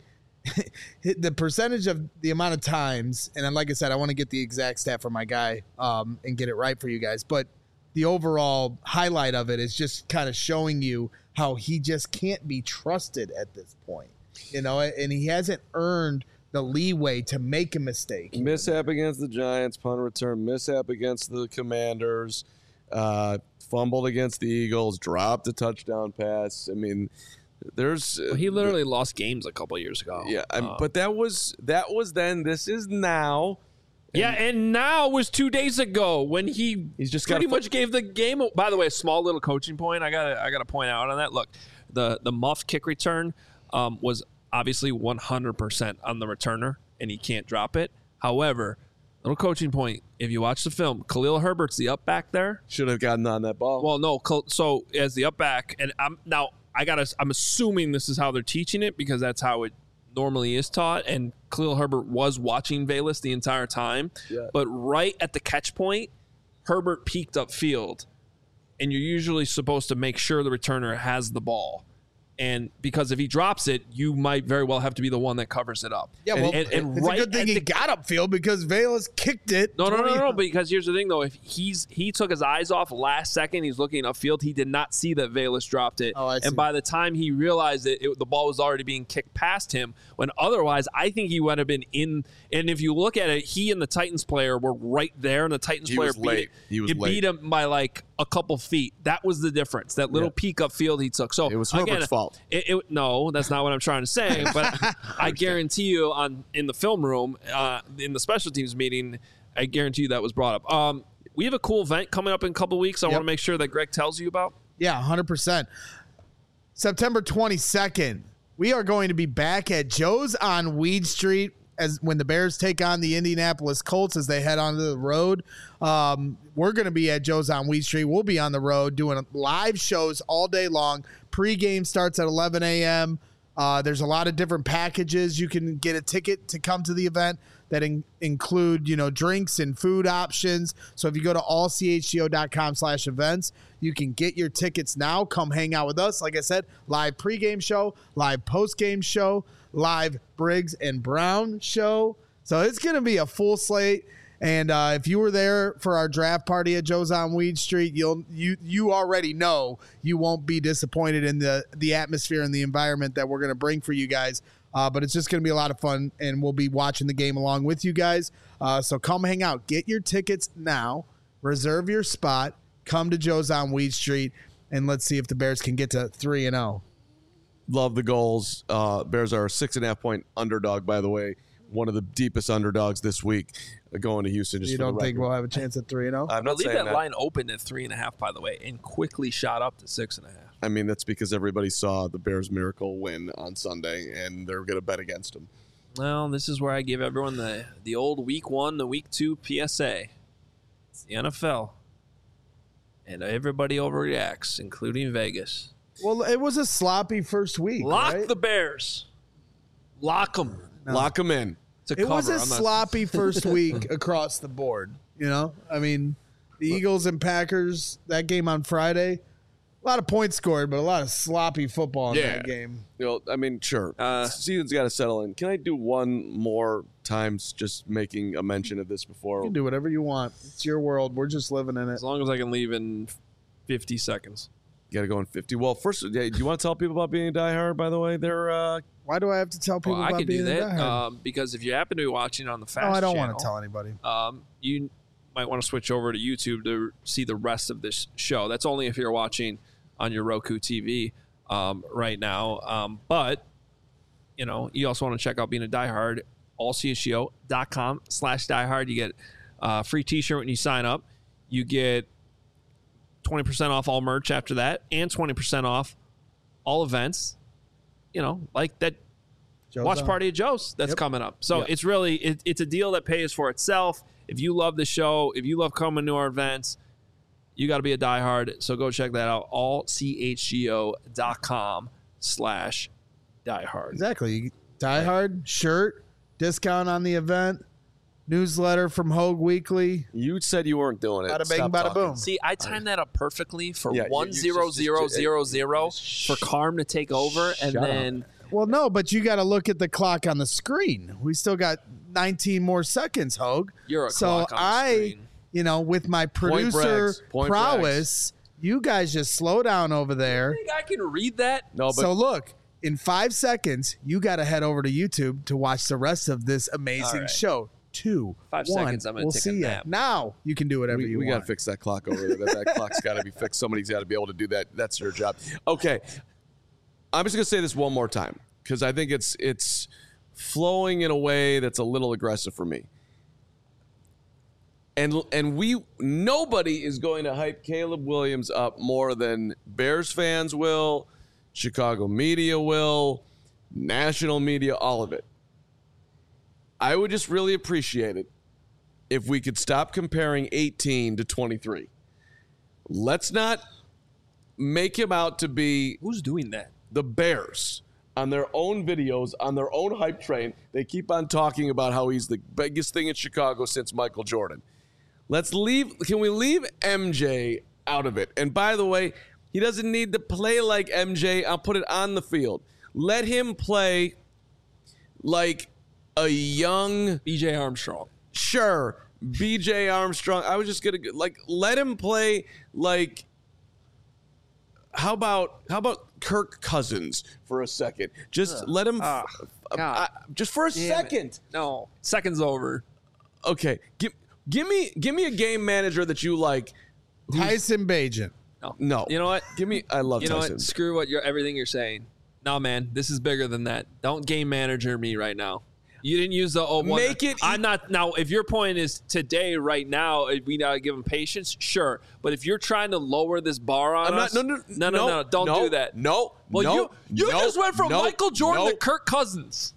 the percentage of the amount of times, and then like I said, I want to get the exact stat from my guy um, and get it right for you guys. But the overall highlight of it is just kind of showing you how he just can't be trusted at this point, you know, and he hasn't earned the leeway to make a mistake. Mishap against the Giants, punt return, mishap against the Commanders, uh, fumbled against the Eagles, dropped a touchdown pass. I mean, there's well, he literally lost games a couple of years ago. Yeah, I, uh, but that was that was then. This is now. And yeah, and now was two days ago when he he's just pretty gotta much gave the game. By the way, a small little coaching point. I got I got to point out on that. Look, the the muff kick return um, was obviously one hundred percent on the returner, and he can't drop it. However, little coaching point, if you watch the film, Khalil Herbert's the up back there. Should have gotten on that ball. Well, no, so as the up back, and I'm now I gotta I'm assuming this is how they're teaching it because that's how it normally is taught, and Khalil Herbert was watching Velus the entire time. Yeah. But right at the catch point, Herbert peeked upfield, and you're usually supposed to make sure the returner has the ball. And because if he drops it, you might very well have to be the one that covers it up. Yeah, well, and, and it's right a good thing the, he got upfield because Velus kicked it. No, no, no, twenty no, no. Because here's the thing, though. If he's he took his eyes off last second, he's looking upfield. He did not see that Velus dropped it. Oh, I see. And by the time he realized it, it, the ball was already being kicked past him. When otherwise, I think he would have been in. And if you look at it, he and the Titans player were right there, and the Titans He player was beat late. it. He was it late. beat him by like a couple feet. That was the difference. That little Yeah. peek upfield he took. So It was again, Herbert's fault. It, it, no, that's not what I'm trying to say. But I guarantee you, on in the film room, uh, in the special teams meeting, I guarantee you that was brought up. Um, we have a cool event coming up in a couple weeks. I Yep. want to make sure that Greg tells you about. Yeah, one hundred percent. September twenty-second, we are going to be back at Joe's on Weed Street as when the Bears take on the Indianapolis Colts as they head onto the road. Um, we're going to be at Joe's on Weed Street. We'll be on the road doing live shows all day long. Pre-game starts at eleven a.m. Uh, there's a lot of different packages. You can get a ticket to come to the event that in, include, you know, drinks and food options. So if you go to all c h g o dot com slash events, you can get your tickets now. Come hang out with us. Like I said, live pregame show, live postgame show, live Briggs and Brown show. So it's going to be a full slate. And uh, if you were there for our draft party at Joe's on Weed Street, you'll you you already know you won't be disappointed in the the atmosphere and the environment that we're going to bring for you guys. Uh, but it's just going to be a lot of fun, and we'll be watching the game along with you guys. Uh, so come hang out. Get your tickets now. Reserve your spot. Come to Joe's on Weed Street, and let's see if the Bears can get to three and zero. Love the goals. Uh, Bears are a six and a half point underdog, by the way. One of the deepest underdogs this week uh, going to Houston. Just You for the don't think record. we'll have a chance at three and zero? I'm I not believe saying that, that. line opened at three and a half, by the way, and quickly shot up to six and a half. I mean, that's because everybody saw the Bears miracle win on Sunday, and they're going to bet against them. Well, this is where I give everyone the the old week one, the week two P S A. It's the N F L, and everybody overreacts, including Vegas. Well, it was a sloppy first week. Lock right? the Bears. Lock them. Lock them in. To It was cover. a I'm not- sloppy first week across the board. You know, I mean, the Eagles and Packers, that game on Friday, a lot of points scored, but a lot of sloppy football in Yeah. that game. You know, I mean, sure. Uh, Season's got to settle in. Can I do one more times just making a mention of this before? You can do whatever you want. It's your world. We're just living in it. As long as I can leave in fifty seconds. You got to go in fifty. Well, first, yeah, do you want to tell people about being a diehard, by the way? They're, uh, Why do I have to tell people Well, I about can being do a that diehard? um, because if you happen to be watching on the Fast no, I don't channel, want to tell anybody. um, you might want to switch over to YouTube to see the rest of this show. That's only if you're watching on your Roku T V um, right now. Um, but, you know, you also want to check out Being a Diehard, all c h g o dot com slash diehard. You get a free t-shirt when you sign up. You get twenty percent off all merch after that and twenty percent off all events. You know, like that Joe's watch on. Party of Joe's that's Yep. coming up. So Yeah. it's really it, it's a deal that pays for itself. If you love the show, if you love coming to our events, you got to be a diehard. So go check that out. all c h g o dot com slash diehard. Exactly. Die Hard shirt, discount on the event, newsletter from Hogue Weekly. You said you weren't doing it. Bada bing, Stop bada talking. boom. See, I timed that up perfectly for Yeah, you- one you zero just- zero just- zero zero for Carm to take over, and Shut up. then Well, no, but you got to look at the clock on the screen. We still got nineteen more seconds, Hogue. you're a So clock on the I, screen. you know, with my producer brags. Point prowess, you guys just slow down over there. I think I can read that. No, but So look, in five seconds, you got to head over to YouTube to watch the rest of this amazing All right. show. Two, Five one. seconds, I'm gonna we'll take a see ya. nap. Now you can do whatever we, you we got want. to fix that clock over there. That, that clock's got to be fixed. Somebody's got to be able to do that. That's your job. Okay. I'm just going to say this one more time because I think it's it's flowing in a way that's a little aggressive for me. And and we nobody is going to hype Caleb Williams up more than Bears fans will, Chicago media will, national media, all of it. I would just really appreciate it if we could stop comparing eighteen to twenty-three. Let's not make him out to be Who's doing that? the Bears on their own videos, on their own hype train. They keep on talking about how he's the biggest thing in Chicago since Michael Jordan. Let's leave. Can we leave M J out of it? And by the way, he doesn't need to play like M J. I'll put it on the field. Let him play like a young, B J Armstrong. sure, B J Armstrong. I was just gonna like let him play like. How about how about Kirk Cousins for a second? Just let him, Ah, uh, God. uh, just for a Damn it. second. No, seconds over. Okay, give give me give me a game manager that you like. Tyson Bagent. No, No, You know what? Give me. I love You know Tyson. what? Screw what you're everything you're saying. No, man, this is bigger than that. Don't game manager me right now. You didn't use the oh one. Make it- I'm not now. If your point is today, right now, uh, we gotta give him patience. Sure, but if you're trying to lower this bar on I'm not. us, No, no, no, no, no, Don't no, do that. No. Well, no, you you no, just went from no, Michael Jordan no. to Kirk Cousins.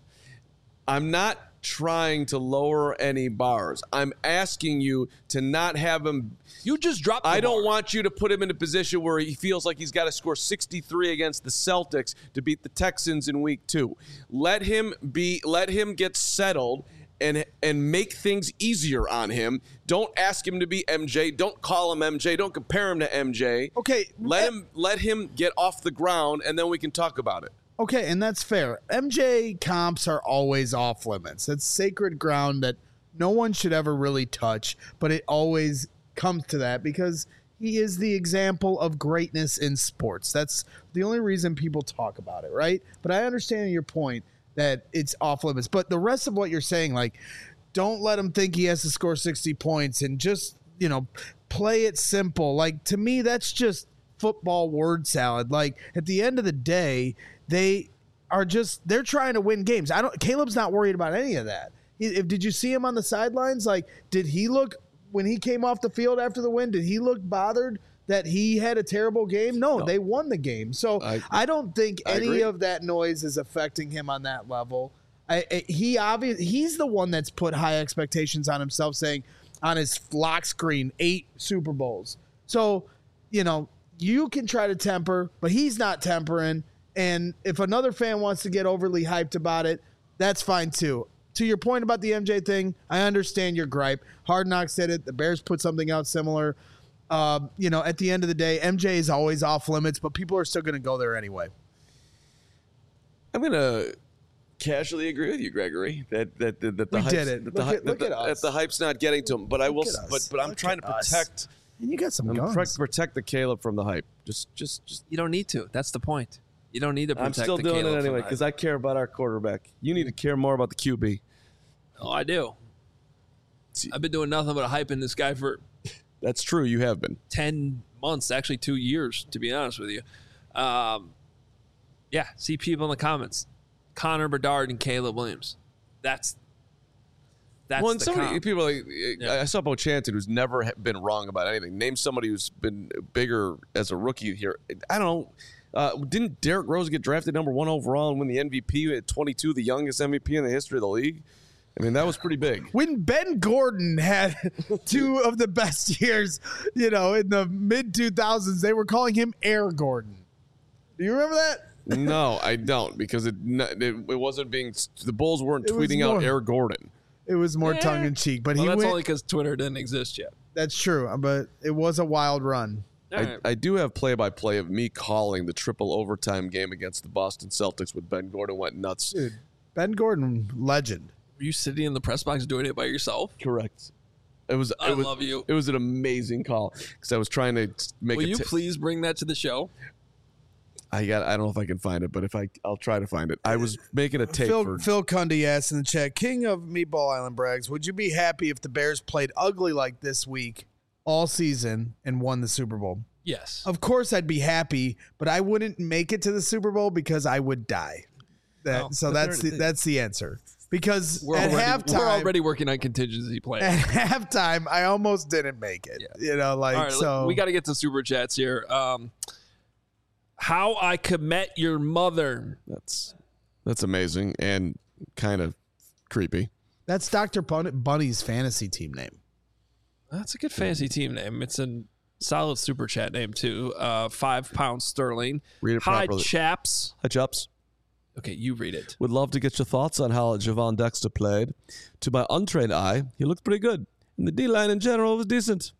I'm not trying to lower any bars. I'm asking you to not have him. You just dropped. The I don't bar. want you to put him in a position where he feels like he's got to score sixty-three against the Celtics to beat the Texans in week two. Let him be. Let him get settled and and make things easier on him. Don't ask him to be M J. Don't call him M J. Don't compare him to M J. Okay, Let eh, him let him get off the ground, and then we can talk about it. Okay, and that's fair. M J comps are always off limits. It's sacred ground that no one should ever really touch, but it always comes to that because he is the example of greatness in sports. That's the only reason people talk about it, right? But I understand your point that it's off limits. But the rest of what you're saying, like, don't let him think he has to score sixty points and just, you know, play it simple. Like, to me, that's just football word salad. Like, at the end of the day, they are just they're trying to win games. I don't Caleb's not worried about any of that. He, if did you see him on the sidelines? Like, did he look when he came off the field after the win, did he look bothered that he had a terrible game? No, No. they won the game. So I, I- don't think I any agree. of that noise is affecting him on that level. I, I, he obviously he's the one that's put high expectations on himself, saying on his lock screen eight Super Bowls. So, you know, you can try to temper, but he's not tempering. And if another fan wants to get overly hyped about it, that's fine too. To your point about the M J thing, I understand your gripe. Hard Knocks did it. The Bears put something out similar. Um, you know, at the end of the day, M J is always off limits, but people are still going to go there anyway. I'm gonna casually agree with you, Gregory. That that that, that the We hype's, did it. That the, Look hy- at- look that at the, us. that the hype's not getting to him. But I will. Look s- at But us. but I'm Look trying at to us. protect. And you got some I'm guns. protect, protect the Caleb from the hype. Just just just. You don't need to. That's the point. You don't need to I'm protect still the doing Caleb it from anyway that. because I care about our quarterback. You need to care more about the Q B. Oh, I do. See- I've been doing nothing but hyping this guy for That's true. You have been. ten months, actually two years, to be honest with you. Um, yeah, see people in the comments. Connor Bedard and Caleb Williams. That's that's well, and the somebody comp. people like Yeah. I saw Bo Chanton, who's never ha- been wrong about anything. Name somebody who's been bigger as a rookie here. I don't know. Uh, didn't Derrick Rose get drafted number one overall and win the M V P at twenty-two, the youngest M V P in the history of the league? I mean, that was pretty big. When Ben Gordon had two of the best years, you know, in the mid two thousands, they were calling him Air Gordon. Do you remember that? No, I don't, because it it, it wasn't being the Bulls weren't It was tweeting out more- Air Gordon. It was more tongue in cheek, but Well, he that's went. only because Twitter didn't exist yet. That's true, but it was a wild run. All I, right. I do have play-by-play of me calling the triple overtime game against the Boston Celtics when Ben Gordon went nuts. Dude, Ben Gordon, legend. Were you sitting in the press box doing it by yourself? Correct. It was. I it was, love you. It was an amazing call because I was trying to make Will it. you t- please bring that to the show? I got. I don't know if I can find it, but if I, I'll try to find it. I was making a tape Phil, for. Phil Cundy asked in the chat, King of Meatball Island Brags, would you be happy if the Bears played ugly like this week all season and won the Super Bowl? Yes. Of course I'd be happy, but I wouldn't make it to the Super Bowl because I would die. That Oh, so but that's the, they're- that's the answer. Because We're at already, halftime, we're already working on contingency plans. at halftime, I almost didn't make it. Yeah. You know, like All right, so. we got to get to super chats here. Um, how I could met your mother. That's that's amazing and kind of creepy. That's Doctor Bun- Bunny's fantasy team name. That's a good fantasy team name. It's a solid super chat name too. Uh, five pounds sterling. Read it Hi, properly. chaps. Hi, Chops. Okay, you read it. Would love to get your thoughts on how Javon Dexter played. To my untrained eye, he looked pretty good, and the D line in general was decent.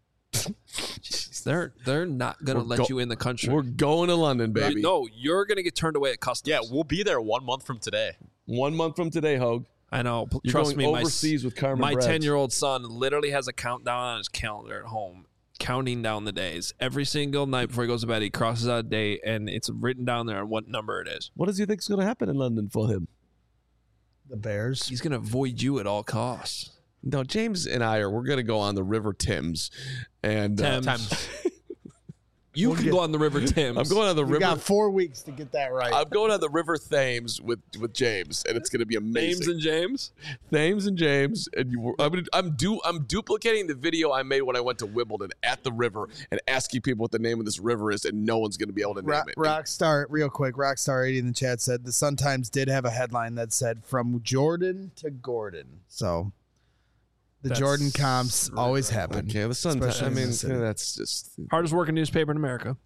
Jeez, they're they're not gonna We're let go- you in the country. We're going to London, baby. No, you're gonna get turned away at customs. Yeah, we'll be there one month from today. One month from today, Hogue. I know. P- You're Trust going me, overseas my, with Carmen my Braggs. ten-year-old son literally has a countdown on his calendar at home, counting down the days. Every single night before he goes to bed, he crosses out a date, and it's written down there on what number it is. What does he think is going to happen in London for him? The Bears. He's gonna avoid you at all costs. No, James and I are. We're going to go on the River Thames, and uh, Thames. You We'll can get- go on the River Thames. I'm going on the You River. got four weeks to get that right. I'm going on the River Thames with with James, and it's going to be amazing. James and James. Thames and James, and you, I'm gonna, I'm du, I'm duplicating the video I made when I went to Wimbledon at the river and asking people what the name of this river is, and no one's going to be able to name Rock, it. Rockstar, real quick, Rockstar eighty in the chat said the Sun Times did have a headline that said from Jordan to Gordon. So the That's Jordan comps always happen. Okay, the Sun. Especially I in mean, this city. that's just. Hardest working newspaper in America.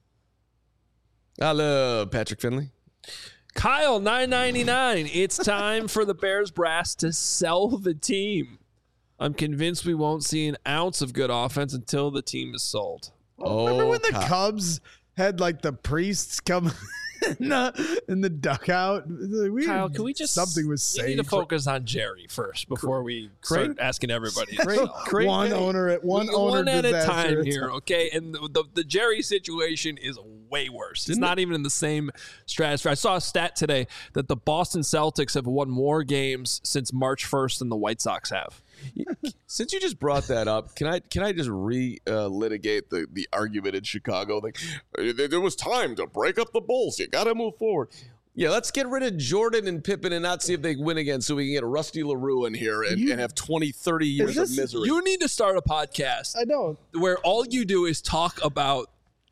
I love Patrick Finley. Kyle nine ninety-nine. It's time for the Bears brass to sell the team. I'm convinced we won't see an ounce of good offense until the team is sold. Oh, Remember when the Kyle. Cubs had like the priests come in the, in the dugout? We Kyle, had- can we just something was we saying need to focus on Jerry first before we Crane- start asking everybody. Crane- Crane- one hey, owner at one We- owner one at a disaster time at here, okay? And the, the the Jerry situation is way worse. It's Didn't not even in the same stratosphere. I saw a stat today that the Boston Celtics have won more games since March first than the White Sox have. Since you just brought that up, can I can I just re uh, litigate the the argument in Chicago? Like, there there was time to break up the Bulls. You got to move forward. Yeah, let's get rid of Jordan and Pippen and not see if they win again, so we can get Rusty LaRue in here and, You- and have twenty, thirty years this- of misery. You need to start a podcast I know. where all you do is talk about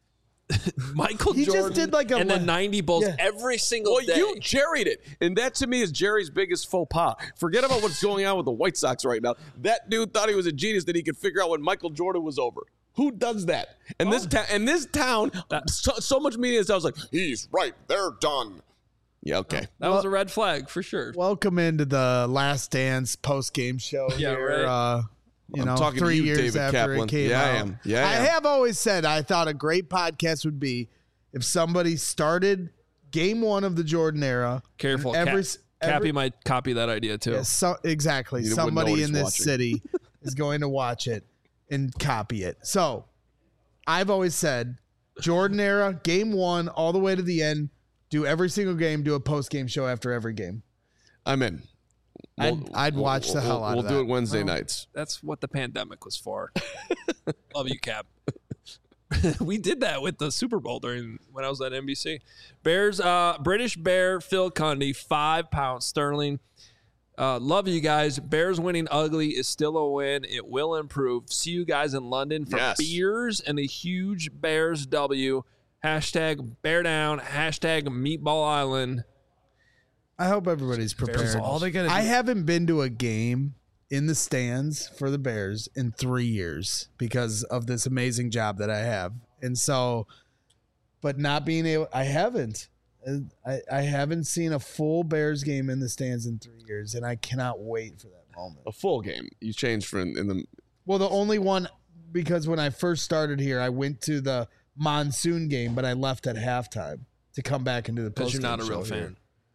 Michael He just Jordan did like a and the le- ninety Bulls Yeah. every single Well, day. you jerried it. And that to me is Jerry's biggest faux pas. Forget about what's going on with the White Sox right now. That dude thought he was a genius that he could figure out when Michael Jordan was over. Who does that? And this town, and this town, so, so much media is I was like, he's right. They're done. Yeah, okay. that was a red flag for sure. Welcome into the Last Dance post game show. Yeah, here, right. Uh, you I'm know, talking to three you, years David after Kaplan. it came Yeah, I out. am. Yeah, I I am. have always said I thought a great podcast would be if somebody started game one of the Jordan era. Careful, and every, Cap- every Cappy might copy that idea too. yeah, so, exactly. You wouldn't know Somebody what in he's this watching. city is going to watch it and copy it. So I've always said Jordan era, game one, all the way to the end. Do every single game. Do a post game show after every game. I'm in. I'd- I'd watch the hell out We'll of do that. it Wednesday nights. That's what the pandemic was for. Love you, Cap. We did that with the Super Bowl during when I was at N B C. Bears, uh, British Bear, Phil Cundy, five pounds sterling. Uh, love you guys. Bears winning ugly is still a win. It will improve. See you guys in London for Yes. beers and a huge Bears W. Hashtag bear down. Hashtag meatball island. I hope everybody's prepared. All they gotta I do- haven't been to a game in the stands for the Bears in three years because of this amazing job that I have. And so, but not being able, I haven't. I, I haven't seen a full Bears game in the stands in three years, and I cannot wait for that moment. A full game. You changed from in the. Well, the only one, because when I first started here, I went to the monsoon game, but I left at halftime to come back into the Because post. you're not a real fan.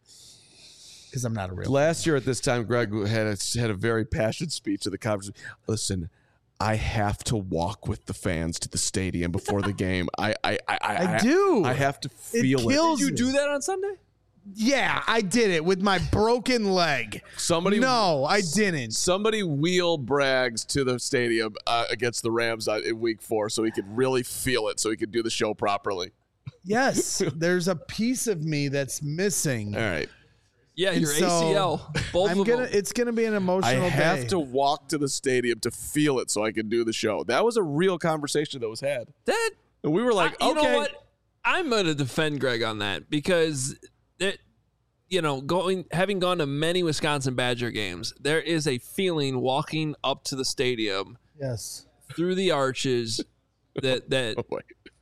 Because I'm not a real Last year at this time, Greg had a, had a very passionate speech to the conference. Listen, I have to walk with the fans to the stadium before the game. I I I, I, I do. I have to feel it. kills Did you me. do that on Sunday? Yeah, I did it with my broken leg. Somebody No, I didn't. Somebody wheel Braggs to the stadium uh, against the Rams uh, in Week Four, so he could really feel it, so he could do the show properly. Yes, there's a piece of me that's missing. All right, Yeah, And your so, A C L. Both I'm of gonna. them. It's gonna be an I emotional have day. to walk to the stadium to feel it, so I can do the show. That was a real conversation that was had, That and we were like, I- you okay, know what? I'm going to defend Greg on that because it, you know, going having gone to many Wisconsin Badger games, there is a feeling walking up to the stadium Yes. through the arches that that oh boy,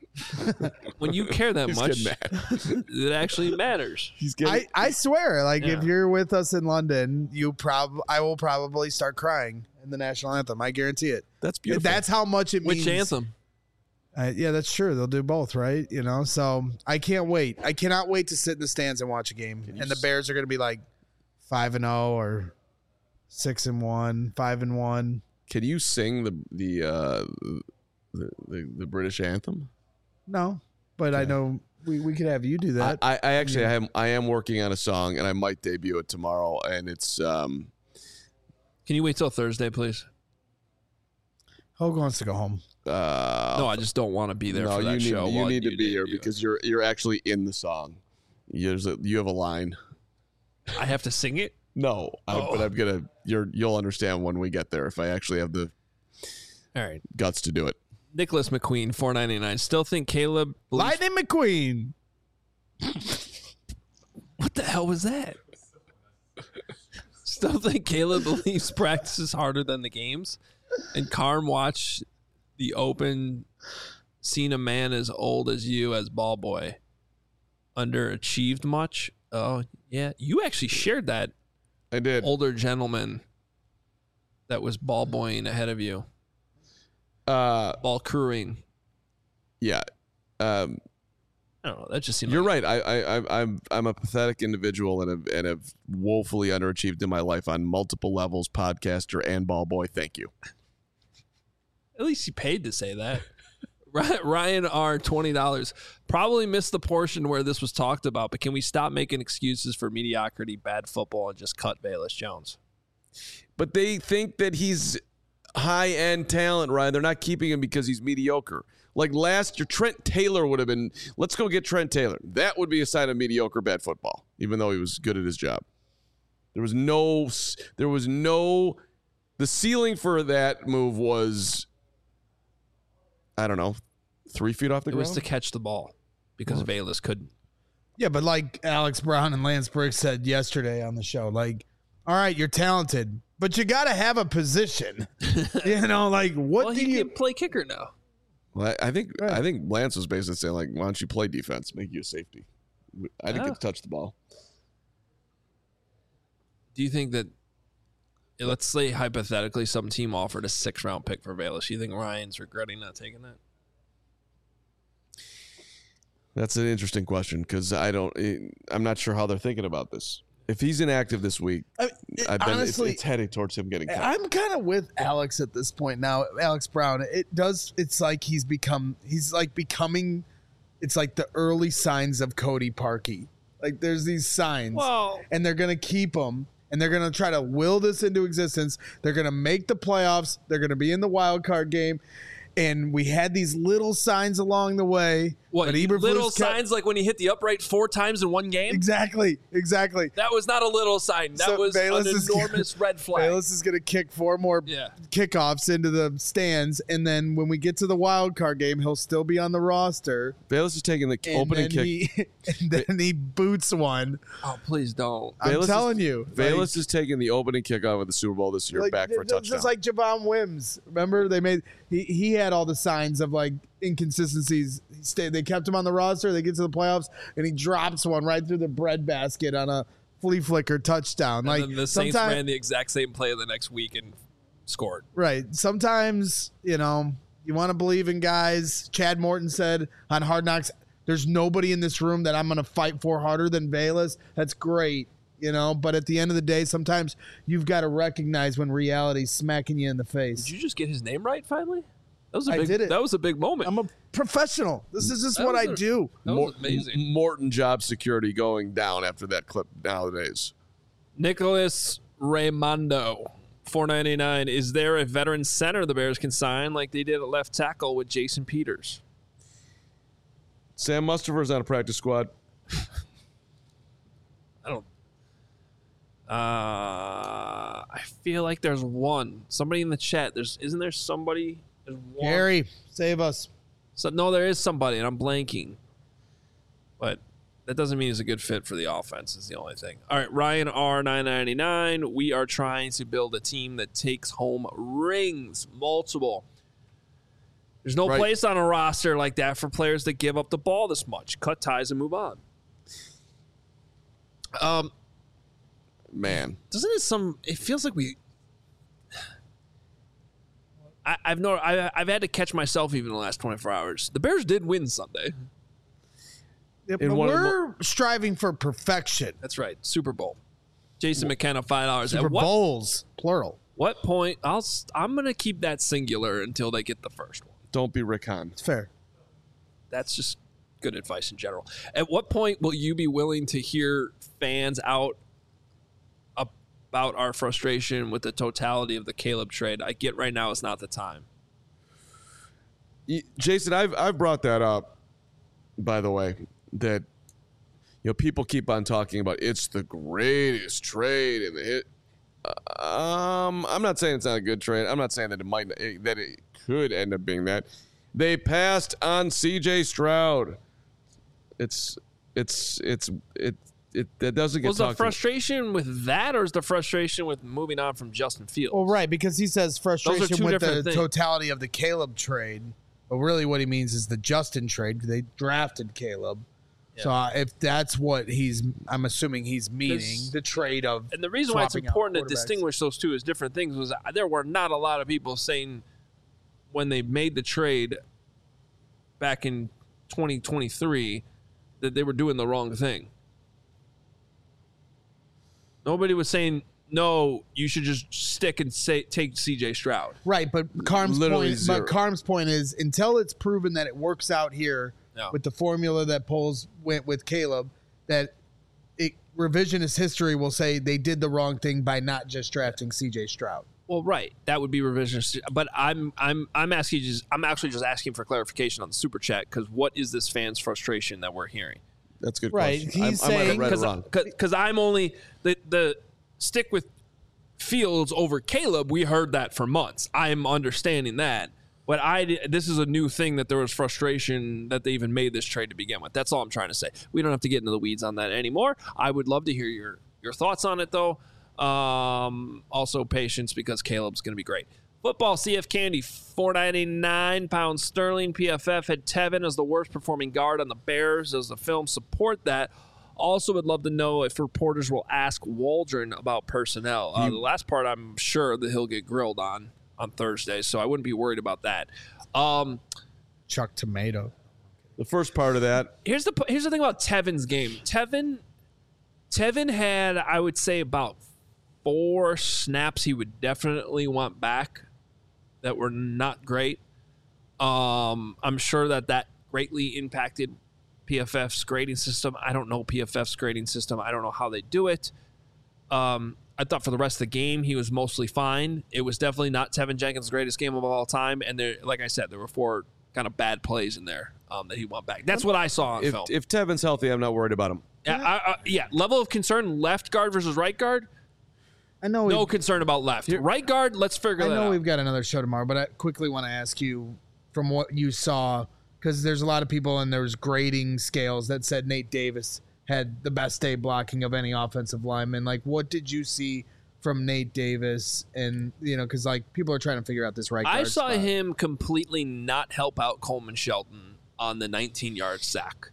when you care that he's much, getting mad. it actually matters. He's getting. I, I swear, like if Yeah. you're with us in London, you prob I will probably start crying in the national anthem. I guarantee it. that's beautiful. That's how much it means. Which anthem? Uh, yeah, that's true. They'll do both, right? You know, so I can't wait. I cannot wait to sit in the stands and watch a game. you And the s- Bears are going to be like five and zero or six and one, five and one. Can you sing the the uh, the, the the British anthem? No, but I know we, we could have you do that. I, I actually I am I am working on a song, and I might debut it tomorrow. And it's um Can you wait till Thursday, please? Hogue wants to go home. uh No, I just don't want to be there no, for that you need show. you while need to you be here debut. because you're you're actually in the song. There's a, you have a line. I have to sing it. No, I, Oh. but I'm gonna you're you'll understand when we get there if I actually have the All right. guts to do it. Nicholas McQueen, four ninety nine. Still think Caleb. believes- Lightning McQueen. What the hell was that? Still think Caleb believes practice is harder than the games, and Carm watched the Open, seen a man as old as you as ball boy, underachieved much. Oh yeah, you actually shared that I did. older gentleman that was ball boying ahead of you, Uh, ball crewing. yeah. Um, I don't know. That just seemed. You're like, right. I, I, I, I'm, I'm a pathetic individual and have, and have woefully underachieved in my life on multiple levels, podcaster and ball boy. Thank you. At least you paid to say that. Ry- Ryan R, twenty dollars. Probably missed the portion where this was talked about, but can we stop making excuses for mediocrity, bad football, and just cut Bayless Jones? But they think that he's high end talent, Ryan. They're not keeping him because he's mediocre. Like last year, Trent Taylor would have been, let's go get Trent Taylor. That would be a sign of mediocre bad football, even though he was good at his job. There was no, there was no, the ceiling for that move was, I don't know, three feet off the It ground. was to catch the ball because Bayless couldn't. Yeah, but like Alex Brown and Lance Briggs said yesterday on the show, like, all right, you're talented, but you got to have a position. You know, like what Well, do he you? can play kicker now. Well, I I think Right. I think Lance was basically saying like, "Why don't you play defense? Make you a safety." I didn't Ah. get to touch the ball. Do you think that, let's say hypothetically, some team offered a six round pick for Bayless? You think Ryan's regretting not taking that? That's an interesting question because I don't. I'm not sure how they're thinking about this. If he's inactive this week, I, it- I've been. honestly, it's, it's heading towards him getting cut. I'm kind of with Alex at this point now. Alex Brown. It does. It's like he's become. He's like becoming. It's like the early signs of Cody Parkey. Like there's these signs, Well, and they're gonna keep them, and they're gonna try to will this into existence. They're gonna make the playoffs. They're gonna be in the wild card game, And we had these little signs along the way. What, but little Eberflus kept- signs like when he hit the upright four times in one game? Exactly, exactly. That was not a little sign. That So was Bayless an is enormous gonna, red flag. Bayless is going to kick four more Yeah. kickoffs into the stands, and then when we get to the wild card game, he'll still be on the roster. Bayless is taking the And opening then kick. He, and then he boots one. Oh, please don't. I'm Bayless telling is, you. Bayless is taking the opening kickoff of the Super Bowl this year like, back for a just touchdown. like Javon Wims. Remember, they made he he had all the signs of like inconsistencies. He stayed. They kept him on the roster. They get to the playoffs, and he drops one right through the breadbasket on a flea flicker touchdown. And like then the Saints sometime- ran the exact same play the next week and scored. Right. Sometimes, you know, you want to believe in guys. Chad Morton said on Hard Knocks, there's nobody in this room that I'm going to fight for harder than Bayless. That's great, you know, but at the end of the day, sometimes you've got to recognize when reality's smacking you in the face. Did you just get his name right finally? That was a I big, did it. That was a big moment. I'm a professional. This is just That what was I a- do. that was Mor- amazing. Morton job security going down after that clip nowadays. Nicholas Raimondo, four ninety-nine. Is there a veteran center the Bears can sign like they did at left tackle with Jason Peters? Sam Mustafer's on a practice squad. I don't. Uh, I feel like there's one. Somebody in the chat. There's isn't there somebody? There's one. Gary, save us. So no, there is somebody, and I'm blanking. But that doesn't mean he's a good fit for the offense. Is the only thing. All right, Ryan R nine ninety-nine. We are trying to build a team that takes home rings, multiple. There's no Right. place on a roster like that for players that give up the ball this much. Cut ties and move on. Um, Man. doesn't it some? It feels like we. I, I've no. I, I've had to catch myself even in the last twenty-four hours. The Bears did win Sunday. Yeah, In but one of the we're striving for perfection. That's right. Super Bowl. Jason McKenna, five dollars. Super At what, Bowls, plural. what point? I'll. s- I'm gonna keep that singular until they get the first one. Don't be Rick Hahn. It's fair. That's just good advice in general. At what point will you be willing to hear fans out about our frustration with the totality of the Caleb trade? I get right now it's not the time. Y- Jason, I've I've brought that up, by the way, that you know people keep on talking about it's the greatest trade in the hit. Um, I'm not saying it's not a good trade. I'm not saying that it might that it could end up being that. They passed on C J Stroud. It's it's it's it it that doesn't get Was the talked about. frustration with that, or is the frustration with moving on from Justin Fields? Well, right, because he says frustration two with the different things. totality of the Caleb trade. But really what he means is the Justin trade. They drafted Caleb. So uh, if that's what he's, I'm assuming he's meaning, There's- the trade of And the reason why it's swapping out important to quarterbacks. distinguish those two as different things was there were not a lot of people saying when they made the trade back in twenty twenty-three that they were doing the wrong thing. Nobody was saying, no, you should just stick and say take C J Stroud. Right, but Carm's Literally point, zero. but Carm's point is until it's proven that it works out here No. with the formula that Poles went with Caleb, that it, revisionist history will say they did the wrong thing by not just drafting C J Stroud. Well, right, that would be revisionist. But I'm I'm I'm asking just I'm actually just asking for clarification on the super chat because what is this fan's frustration that we're hearing? That's a good Right, question. he's I, I might have saying- read it wrong. Because I'm only the the stick with Fields over Caleb. We heard that for months. I'm understanding that, but I this is a new thing that there was frustration that they even made this trade to begin with. That's all I'm trying to say. We don't have to get into the weeds on that anymore. I would love to hear your your thoughts on it though. Um, also patience because Caleb's going to be great. Football C F Candy, four ninety-nine pounds sterling. P F F had Tevin as the worst performing guard on the Bears. Does the film support that? Also would love to know if reporters will ask Waldron about personnel. Uh, the last part I'm sure that he'll get grilled on on Thursday, so I wouldn't be worried about that. Um, Chuck Tomato. The first part of that, here's the here's the thing about Tevin's game. Tevin Tevin had, I would say, about four snaps he would definitely want back that were not great. Um, I'm sure that that greatly impacted P F F's grading system. I don't know P F F's grading system. I don't know how they do it. Um, I thought for the rest of the game, he was mostly fine. It was definitely not Tevin Jenkins' greatest game of all time. And there, like I said, there were four kind of bad plays in there um, that he won back. That's what I saw on If, film. if Tevin's healthy, I'm not worried about him. Yeah, I, I, yeah, level of concern, left guard versus right guard, I know. no we've- concern about left. Right guard, let's figure I that know out. we've got another show tomorrow, but I quickly want to ask you from what you saw, because there's a lot of people and there's grading scales that said Nate Davis had the best day blocking of any offensive lineman. Like, what did you see from Nate Davis? And, you know, because, like, people are trying to figure out this right guard I saw spot. him completely not help out Coleman Shelton on the nineteen-yard sack.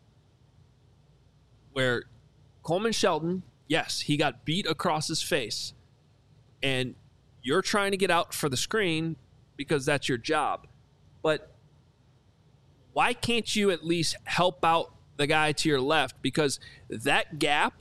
Where Coleman Shelton, yes, he got beat across his face, and you're trying to get out for the screen because that's your job. But why can't you at least help out the guy to your left? Because that gap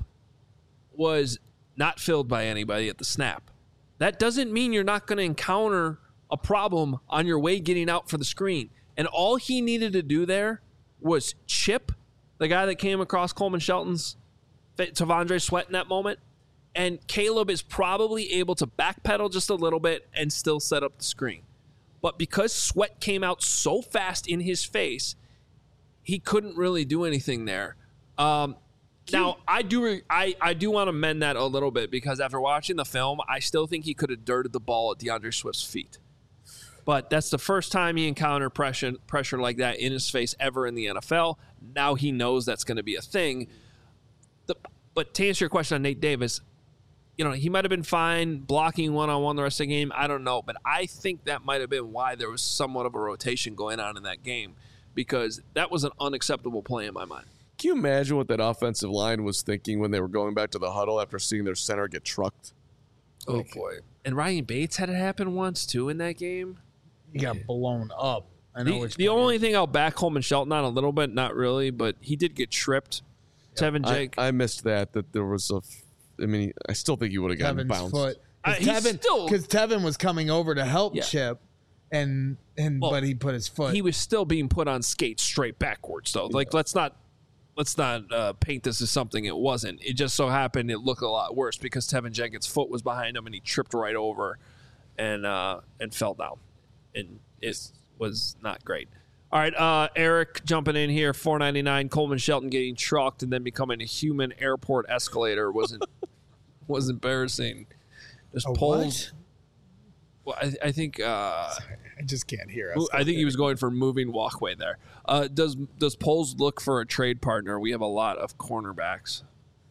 was not filled by anybody at the snap. That doesn't mean you're not going to encounter a problem on your way getting out for the screen. And all he needed to do there was chip the guy that came across Coleman Shelton's Tavondre Sweat in that moment. And Caleb is probably able to backpedal just a little bit and still set up the screen. But because Sweat came out so fast in his face, he couldn't really do anything there. Um, now, I do I, I do want to mend that a little bit because after watching the film, I still think he could have dirted the ball at DeAndre Swift's feet. But that's the first time he encountered pressure, pressure like that in his face ever in the N F L. Now he knows that's going to be a thing. The, but to answer your question on Nate Davis, you know, he might have been fine blocking one-on-one the rest of the game. I don't know. But I think that might have been why there was somewhat of a rotation going on in that game because that was an unacceptable play in my mind. Can you imagine what that offensive line was thinking when they were going back to the huddle after seeing their center get trucked? Oh, boy. And Ryan Bates had it happen once, too, in that game. He got blown up. I know The, which the player. only thing I'll back Coleman Shelton on a little bit, not really, but he did get tripped. Tevin I, Jake. I missed that, that there was a, f- I mean, I still think he would have gotten Tevin's bounced. foot. Uh, Because he's Tevin, still- 'cause Tevin was coming over to help Yeah. Chip, and and Well, but he put his foot. he was still being put on skates straight backwards, though. Like, let's not let's not uh, paint this as something it wasn't. It just so happened it looked a lot worse because Tevin Jenkins' foot was behind him and he tripped right over and uh, and fell down. And it was not great. All right, uh, Eric jumping in here, four ninety-nine. Coleman Shelton getting trucked and then becoming a human airport escalator wasn't was embarrassing. Just A polls. Well, I, I think uh, I just can't hear us. I think he was going for moving walkway there. Uh, does does Poles look for a trade partner? We have a lot of cornerbacks.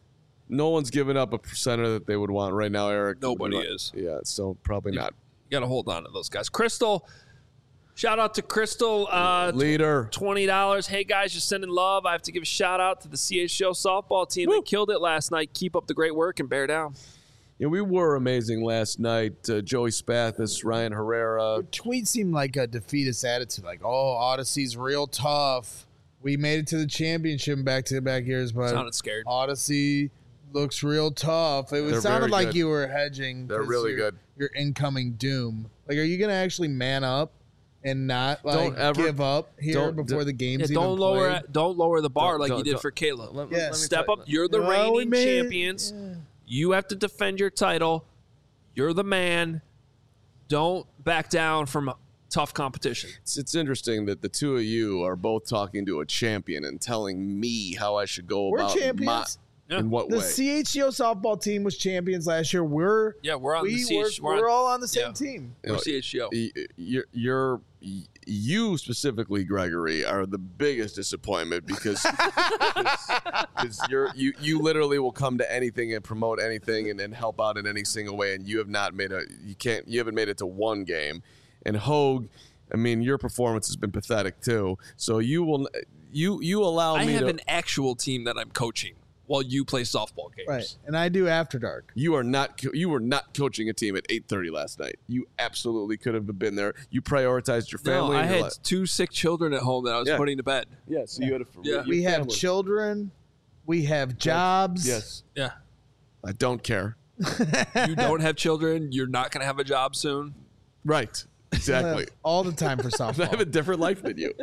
No one's giving up a center that they would want right now, Eric. Nobody Right- is. Yeah, so probably not. You got to hold on to those guys. Crystal, shout out to Crystal. Uh, Leader. twenty dollars. Hey, guys, just sending love. I have to give a shout out to the C H O softball team. They killed it last night. Keep up the great work and bear down. Yeah, we were amazing last night. Uh, Joey Spathis, Ryan Herrera. Your tweet seemed like a defeatist attitude, like, "Oh, Odyssey's real tough. We made it to the championship in back-to-back years, but Sounded scared. Odyssey looks real tough." It was, They're sounded very like good. you were hedging. They're 'cause really you're- good. Your incoming doom. Like, are you going to actually man up and not like Don't ever- give up here don't- before the Yeah, game's don't even lower played? don't lower the bar Don't- like don't- you did don't- for Caleb. Let- Yeah. let me Step tell up. you- You're the Well, we reigning made it. champions. Yeah. You have to defend your title. You're the man. Don't back down from tough competition. It's, it's interesting that the two of you are both talking to a champion and telling me how I should go We're about champions. my, Yeah. in what The way. C H C O softball team was champions last year. We're Yeah, we're on we the C H. we're, We're, we're on, all on the same yeah. team. You know, we're C H O. y- you're, you're you specifically, Gregory, are the biggest disappointment because because you're you you literally will come to anything and promote anything and, and help out in any single way, and you have not made a you can't you haven't made it to one game. And Hogue, I mean, your performance has been pathetic too. So you will you you allow I me have to. an actual team that I'm coaching while you play softball games. Right. And I do After Dark. You are not. co- You were not coaching a team at eight thirty last night. You absolutely could have been there. You prioritized your No, family. I and your had li- two sick children at home that I was Yeah. putting to bed. yeah. So you had a. Yeah. your We have family. children. We have jobs. Yes. Yeah. I don't care. You don't have children. You're not going to have a job soon. Right. Exactly. All the time for I have a softball. different life than you.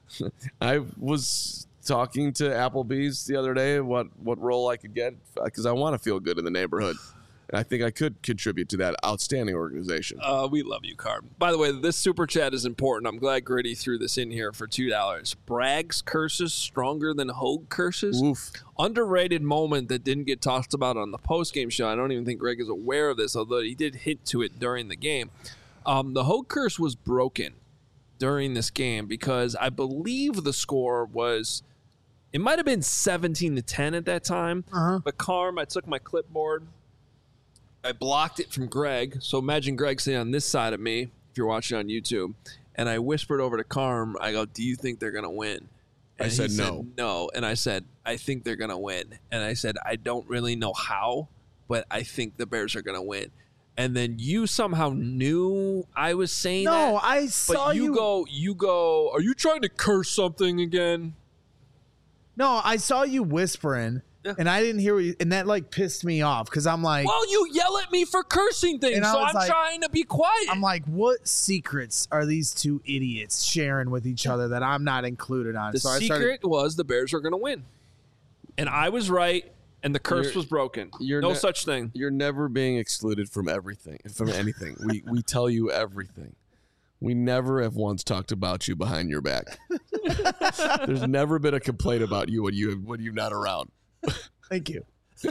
I was talking to Applebee's the other day what what role I could get because I want to feel good in the neighborhood, and I think I could contribute to that outstanding organization. Uh, we love you, Carb. By the way, this super chat is important. I'm glad Gritty threw this in here for two dollars. Bragg's curses stronger than Hogue curses. Oof. Underrated moment that didn't get talked about on the post-game show. I don't even think Greg is aware of this, although he did hint to it during the game. Um, the Hogue curse was broken during this game because I believe the score was, it might have been seventeen to ten at that time. Uh-huh. But Carm, I took my clipboard, I blocked it from Greg. So imagine Greg sitting on this side of me, if you're watching on YouTube, and I whispered over to Carm, I go, do you think they're going to win? And I said he no. no. And I said, I think they're going to win. And I said, I don't really know how, but I think the Bears are going to win. And then you somehow knew I was saying No, that. I But saw you, you. go, you go, are you trying to curse something again? No, I saw you whispering, Yeah. and I didn't hear what you, and that like pissed me off because I'm like, Well, you yell at me for cursing things, And I so was I'm like- trying to be quiet. I'm like, what secrets are these two idiots sharing with each other that I'm not included on? the so I secret started, was the Bears were going to win. And I was right, and the curse You're- was broken. you're no ne- such thing. You're never being excluded from everything, from anything. we we tell you everything. We never have once talked about you behind your back. There's never been a complaint about you when you when you're not around. thank you.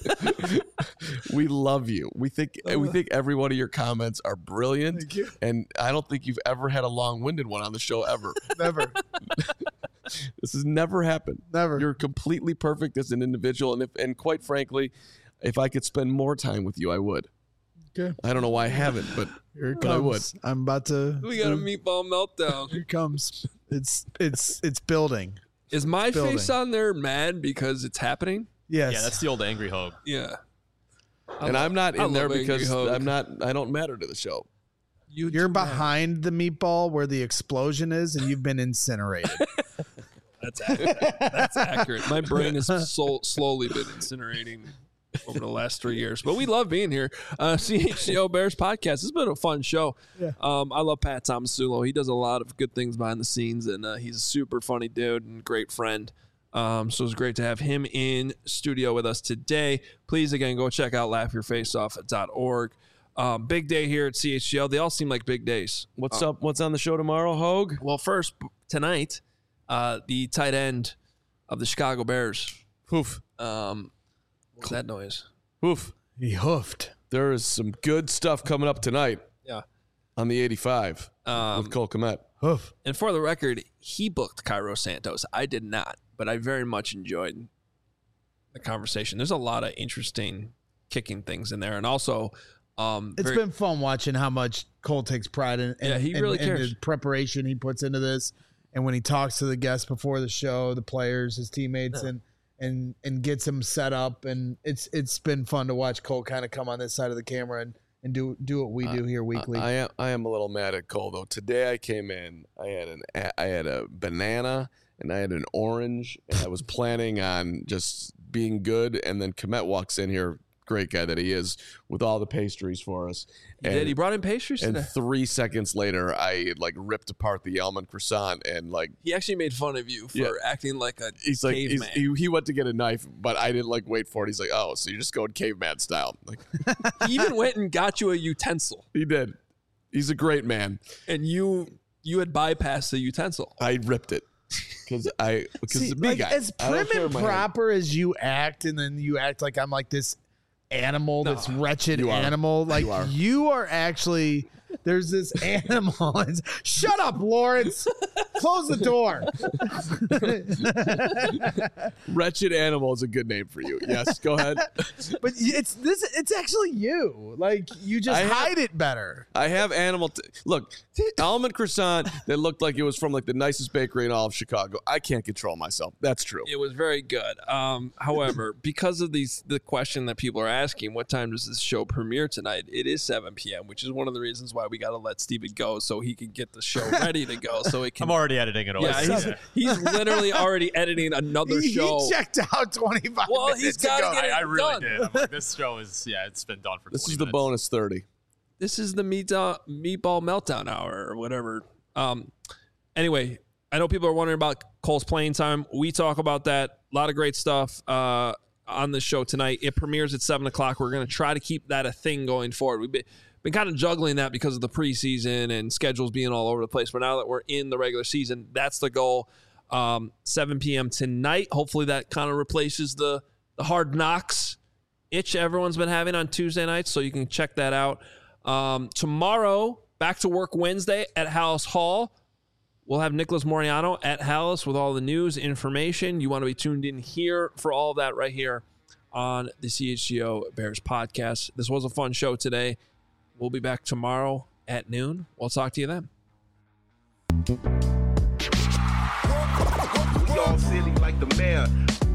We love you. We think we think every one of your comments are brilliant. Thank you. And I don't think you've ever had a long-winded one on the show ever. Never, This has never happened. never. You're completely perfect as an individual, and if and quite frankly, if I could spend more time with you, I would. Okay. I don't know why I haven't, but Here it but I would. comes. I'm about to. We got a meatball meltdown. Here it comes. It's it's it's building. Is my Building. face on there mad because it's happening? Yes. Yeah, that's the old angry Hogue. Yeah. I and love- I'm not I in there love Angry because Hogue. I'm not. I don't matter to the show. You You're do that. behind the meatball where the explosion is, and you've been incinerated. That's accurate. That's accurate. My brain has so, slowly been incinerating over the last three years. But we love being here. Uh, C H C O Bears podcast. It's been a fun show. Yeah. Um, I love Pat Tomasulo. He does a lot of good things behind the scenes, and uh, he's a super funny dude and great friend. Um, so it's great to have him in studio with us today. Please, again, go check out laugh your face off dot org. Um, big day here at C H C O. They all seem like big days. What's up? What's on the show tomorrow, Hogue? Well, first, tonight, uh, the tight end of the Chicago Bears. Hoof, Um, what's that noise? hoof. He hoofed. There is some good stuff coming up tonight Yeah. on the eighty-five Um, with Cole Kmet. Hoof. and for the record, he booked Cairo Santos. I did not, but I very much enjoyed the conversation. There's a lot of interesting kicking things in there, and also, um, It's very- been fun watching how much Cole takes pride in, in Yeah, he in- really in cares. the preparation he puts into this, and when he talks to the guests before the show, the players, his teammates, and and and gets them set up, and it's it's been fun to watch Cole kind of come on this side of the camera and and do do what we do here weekly. I am I am a little mad at Cole though. Today I came in, I had an I had a banana and I had an orange, and I was planning on just being good, and then Kmet walks in here, great guy that he is, with all the pastries for us. he did. He brought in pastries And today. three seconds later, I like ripped apart the almond croissant, and like He actually made fun of you for Yeah. acting like a he's like he's, caveman. he, he went to get a knife, but I didn't like wait for it. He's like, oh, so you're just going caveman style? Like He even went and got you a utensil, he did. He's a great man. and you you had bypassed the utensil. I ripped it because I because See, the big like, guy. as I don't prim care and my hand. proper as you act, and then you act like I'm like this animal, this wretched you are. animal. Like You are. you are actually. There's this animal. It's, shut up, Lawrence. Close the door. Wretched animal is a good name for you. Yes, go ahead. But it's this. It's actually you. Like you just I have- hide it better. I have animal. T- Look, almond croissant that looked like it was from like the nicest bakery in all of Chicago. I can't control myself. That's true. It was very good. Um, however, because of these, the question that people are asking, what time does this show premiere tonight? It is seven p.m., which is one of the reasons why we got to let Steven go so he can get the show ready to go. So it can. I'm already editing it away. yeah, he's, he's literally already editing another He, show. he checked out twenty-five Well, minutes he's gotta ago. get it I, I really done. did. I'm like, this show is, yeah, it's been done for This twenty is the minutes. bonus thirty. This is the meat, uh, meatball meltdown hour or whatever. Um, anyway, I know people are wondering about Cole's playing time. We talk about that. A lot of great stuff. Uh, on the show tonight. It premieres at seven o'clock. We're going to try to keep that a thing going forward. We've been, been kind of juggling that because of the preseason and schedules being all over the place. But now that we're in the regular season, that's the goal. Um, seven p.m. tonight. Hopefully that kind of replaces the, the hard knocks itch everyone's been having on Tuesday nights, so you can check that out. Um, tomorrow, back to work Wednesday at Hallis Hall. We'll have Nicholas Moriano at Hallis with all the news, information. You want to be tuned in here for all of that right here on the C H G O Bears podcast. This was a fun show today. We'll be back tomorrow at noon. We'll talk to you then. We all silly like the mayor.